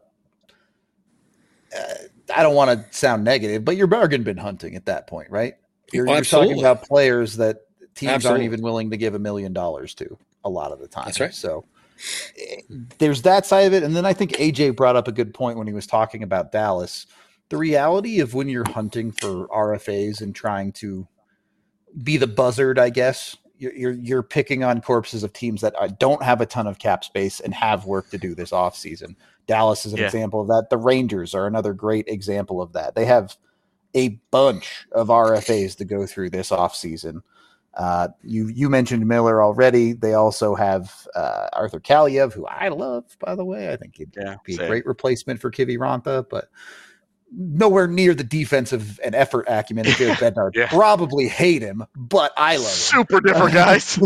I don't want to sound negative, but you're bargain bin hunting at that point, right? You're talking about players that teams aren't even willing to give $1 million to a lot of the time. That's right. So there's that side of it. And then I think AJ brought up a good point when he was talking about Dallas. The reality of when you're hunting for RFAs and trying to be the buzzard, I guess, you're picking on corpses of teams that don't have a ton of cap space and have work to do this offseason. Dallas is an example of that. The Rangers are another great example of that. They have a bunch of RFAs to go through this offseason. You mentioned Miller already. They also have Arthur Kaliev, who I love, by the way. I think he'd be a great replacement for Kiviranta, but nowhere near the defensive and effort acumen of Jared Bednar. Probably hate him, but I love him. Super different guys.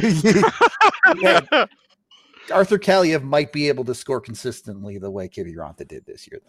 Arthur Kaliev might be able to score consistently the way Kiviranta did this year,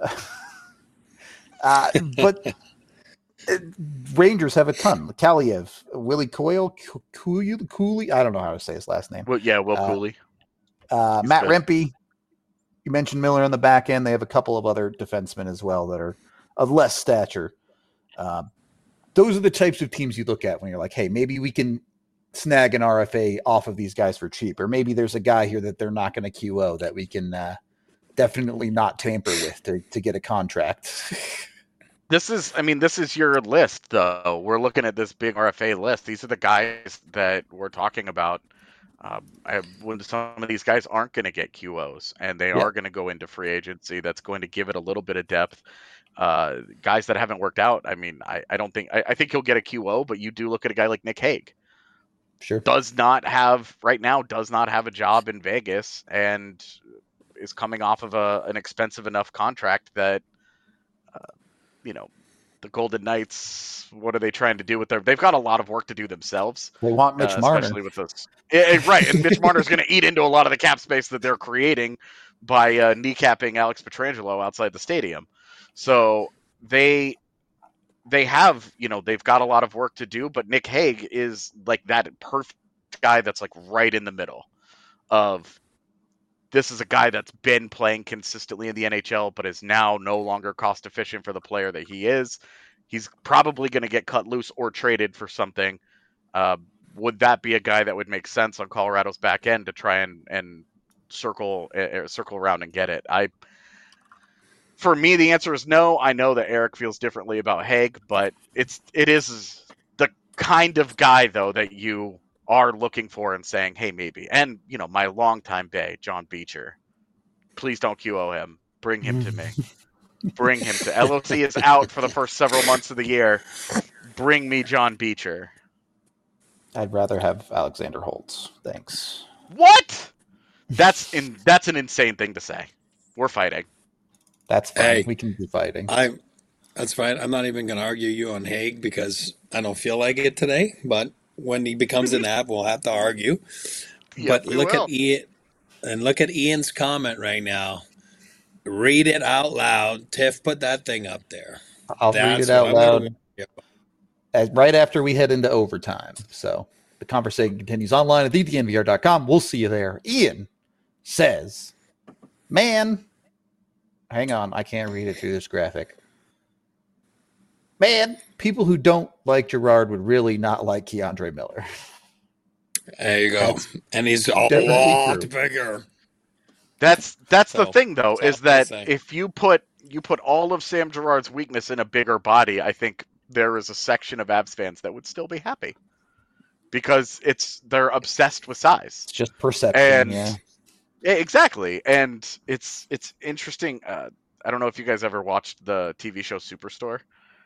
though. But Rangers have a ton. Kaliev, Willie Coyle, Cooley. I don't know how to say his last name. Will Cooley. Matt Rempe. You mentioned Miller on the back end. They have a couple of other defensemen as well that are of less stature. Those are the types of teams you look at when you're like, hey, maybe we can snag an RFA off of these guys for cheap. Or maybe there's a guy here that they're not going to QO that we can definitely not tamper with to get a contract. This is your list, though. We're looking at this big RFA list. These are the guys that we're talking about. When some of these guys aren't going to get QOs and they are going to go into free agency, that's going to give it a little bit of depth. Guys that haven't worked out. I mean, I think he'll get a QO, but you do look at a guy like Nick Hague. Sure. Does not have a job in Vegas and is coming off of an expensive enough contract that, the Golden Knights, what are they trying to do with they've got a lot of work to do themselves. They want Mitch Marner. Especially with this. Right. And Mitch Marner is going to eat into a lot of the cap space that they're creating by kneecapping Alex Pietrangelo outside the stadium. So they have, they've got a lot of work to do, but Nick Hague is like that perfect guy that's like right in the middle of, this is a guy that's been playing consistently in the NHL, but is now no longer cost efficient for the player that he is. He's probably going to get cut loose or traded for something. Would that be a guy that would make sense on Colorado's back end to try and circle around and get it? For me, the answer is no. I know that Eric feels differently about Hague, but it is the kind of guy, though, that you are looking for and saying, hey, maybe. And, my longtime Bay, John Beecher, please don't QO him. Bring him to me. Bring him to LOC is out for the first several months of the year. Bring me John Beecher. I'd rather have Alexander Holtz. Thanks. What? That's an insane thing to say. We're fighting. That's fine. Hey, we can be fighting. That's fine. I'm not even going to argue you on Hague because I don't feel like it today, but when he becomes an app, we'll have to argue. But look at Ian, and look at Ian's comment right now. Read it out loud. Tiff put that thing up there. I'll read it out loud right after we head into overtime. So the conversation continues online at DNVR.com. We'll see you there. Ian says, man, hang on. I can't read it through this graphic. Man, people who don't like Girard would really not like Keandre Miller. There you go. And he's a lot bigger. That's the thing, though, is that if you put all of Sam Girard's weakness in a bigger body, I think there is a section of Avs fans that would still be happy because they're obsessed with size. It's just perception. And exactly. And it's interesting. I don't know if you guys ever watched the TV show Superstore.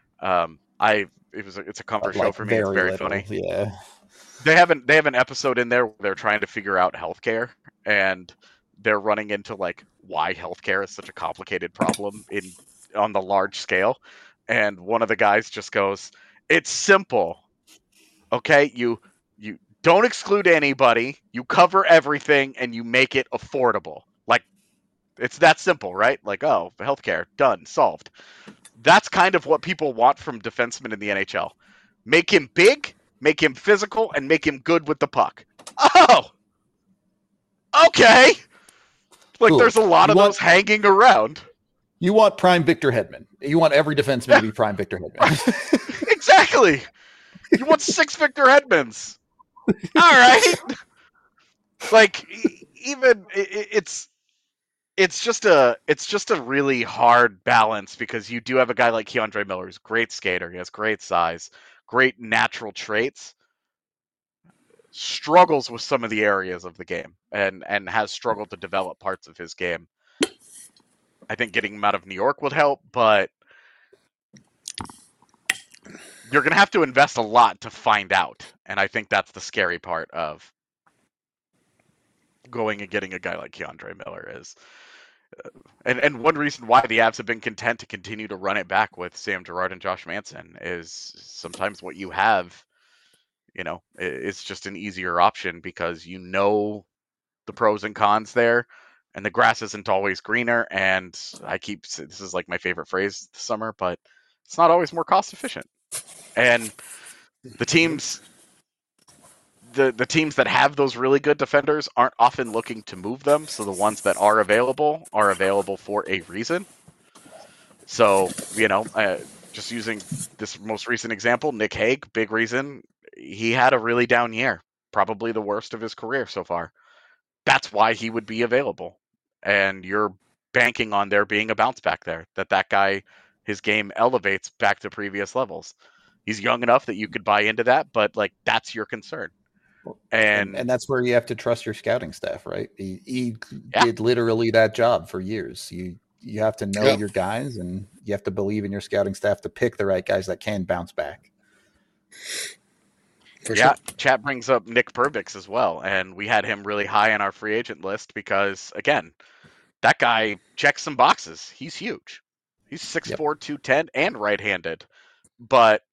It's a comfort show Like for me. It's very little, funny. yeah. They have an episode in there where they're trying to figure out healthcare, and they're running into like why healthcare is such a complicated problem on the large scale. And one of the guys just goes, "It's simple. Okay, you don't exclude anybody, you cover everything, and you make it affordable. Like, it's that simple, right? Like, oh, healthcare, done, solved." That's kind of what people want from defensemen in the NHL. Make him big, make him physical, and make him good with the puck. Oh, okay. Like, Cool. there's a lot of those hanging around. You want prime Victor Hedman. You want every defenseman to be prime Victor Hedman. Exactly. You want 6 Victor Hedmans. All right. Like, even it's just a really hard balance, because you do have a guy like Keandre Miller who's a great skater. He has great size, great natural traits, struggles with some of the areas of the game, and has struggled to develop parts of his game. I think getting him out of New York would help, but you're going to have to invest a lot to find out. And I think that's the scary part of going and getting a guy like Keandre Miller is. And one reason why the Avs have been content to continue to run it back with Sam Girard and Josh Manson is sometimes what you have, it's just an easier option, because the pros and cons there, and the grass isn't always greener. And this is like my favorite phrase this summer, but it's not always more cost efficient. And the teams that have those really good defenders aren't often looking to move them, so the ones that are available for a reason. So, just using this most recent example, Nick Hague, big reason. He had a really down year, probably the worst of his career so far. That's why he would be available. And you're banking on there being a bounce back there, that guy, his game elevates back to previous levels. He's young enough that you could buy into that, but like, that's your concern. And that's where you have to trust your scouting staff, right? He did literally that job for years. You have to know your guys, and you have to believe in your scouting staff to pick the right guys that can bounce back. For sure. Chat brings up Nick Perbix as well, and we had him really high on our free agent list because, again, that guy checks some boxes. He's huge. He's 6'4", 210, and right-handed, but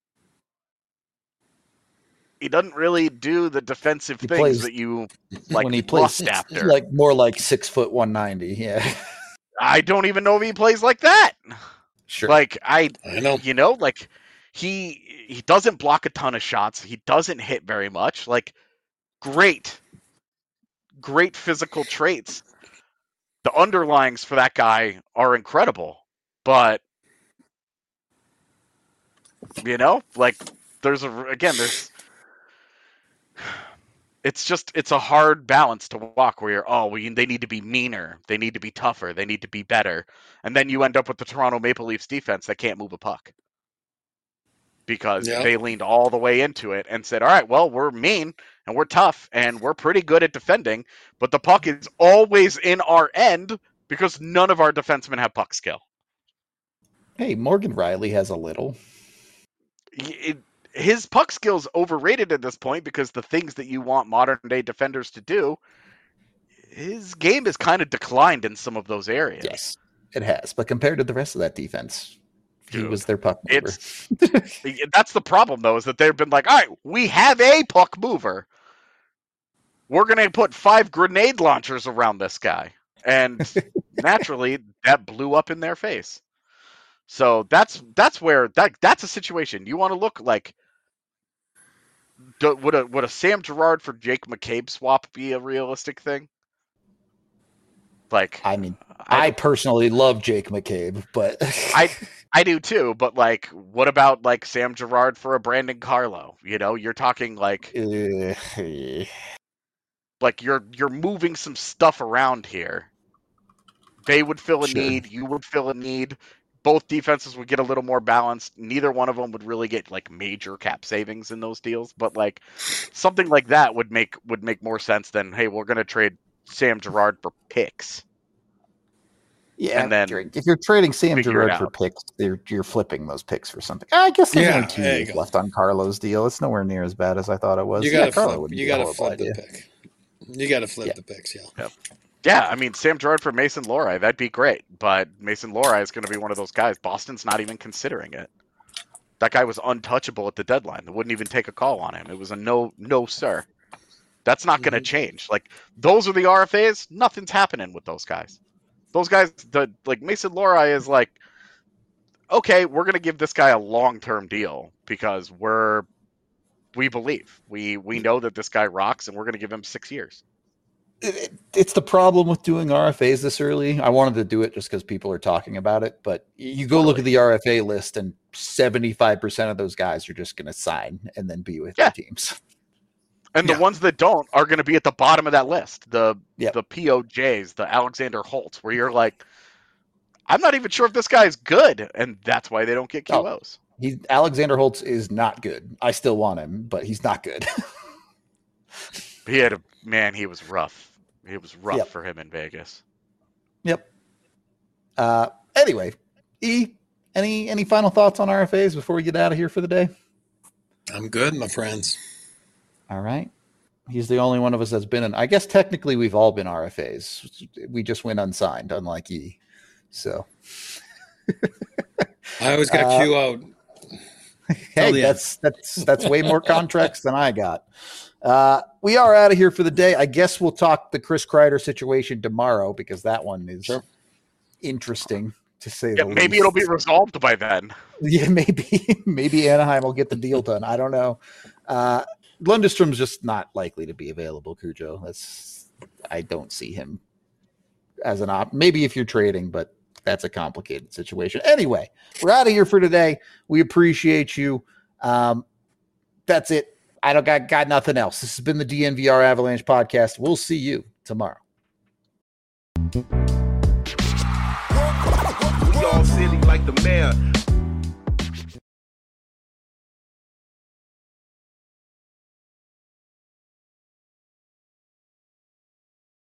he doesn't really do the defensive things that you like. When he plays, like more like 6 foot 190. Yeah, I don't even know if he plays like that. Sure, like I know, like he doesn't block a ton of shots. He doesn't hit very much. Like great physical traits. The underlyings for that guy are incredible, but like there's it's a hard balance to walk where they need to be meaner, they need to be tougher, they need to be better, and then you end up with the Toronto Maple Leafs defense that can't move a puck because they leaned all the way into it and said, all right, well, we're mean and we're tough and we're pretty good at defending, but the puck is always in our end because none of our defensemen have puck skill. Hey, Morgan Riley has a little. His puck skill's overrated at this point because the things that you want modern day defenders to do, his game has kind of declined in some of those areas. Yes, it has. But compared to the rest of that defense, he was their puck mover. That's the problem, though, is that they've been like, all right, we have a puck mover. We're going to put 5 grenade launchers around this guy. And naturally, that blew up in their face. So that's where that's a situation. You want to look like, would a Sam Girard for Jake McCabe swap be a realistic thing? Like, I mean, I personally love Jake McCabe, but I do too. But like, what about like Sam Girard for a Brandon Carlo? You're talking like, like you're moving some stuff around here. They would fill a need. You would fill a need. Both defenses would get a little more balanced. Neither one of them would really get like major cap savings in those deals, but like something like that would make more sense than, hey, we're going to trade Sam Girard for picks. Yeah, And then if you're trading Sam figure it Girard for out. picks, you're flipping those picks for something. I guess there's Yeah, only 2 there you years go. left on Carlo's deal. It's nowhere near as bad as I thought it was. You gotta Carlo flip. wouldn't You be a gotta horrible flip the idea. pick. You gotta flip Yeah. the picks. Yeah. Yep. Yeah, I mean, Sam Girard for Mason Lohrei, that'd be great. But Mason Lohrei is going to be one of those guys. Boston's not even considering it. That guy was untouchable at the deadline. They wouldn't even take a call on him. It was a no, sir. That's not going to change. Like, those are the RFAs. Nothing's happening with those guys. Those guys, like Mason Lohrei is like, okay, we're going to give this guy a long-term deal because we believe. We know that this guy rocks, and we're going to give him 6 years. It's the problem with doing RFAs this early. I wanted to do it just because people are talking about it, but you go look at the RFA list, and 75% of those guys are just going to sign and then be with their teams. And the ones that don't are going to be at the bottom of that list. The POJs, the Alexander Holtz, where you're like, I'm not even sure if this guy is good, and that's why they don't get QOs. Alexander Holtz is not good. I still want him, but he's not good. He was rough. It was rough for him in Vegas. Yep. Anyway, any final thoughts on RFAs before we get out of here for the day? I'm good, my friends. All right. He's the only one of us that's been in. I guess technically we've all been RFAs. We just went unsigned, unlike E. So I always got QO'd. Hey, that's way more contracts than I got. We are out of here for the day. I guess we'll talk the Chris Kreider situation tomorrow because that one is interesting to say the least. Maybe it'll be resolved by then. Yeah, maybe Anaheim will get the deal done. I don't know. Lundstrom's just not likely to be available, Cujo. I don't see him as an op. Maybe if you're trading, but that's a complicated situation. Anyway, we're out of here for today. We appreciate you. That's it. I don't got nothing else. This has been the DNVR Avalanche podcast. We'll see you tomorrow. We all silly like the mayor.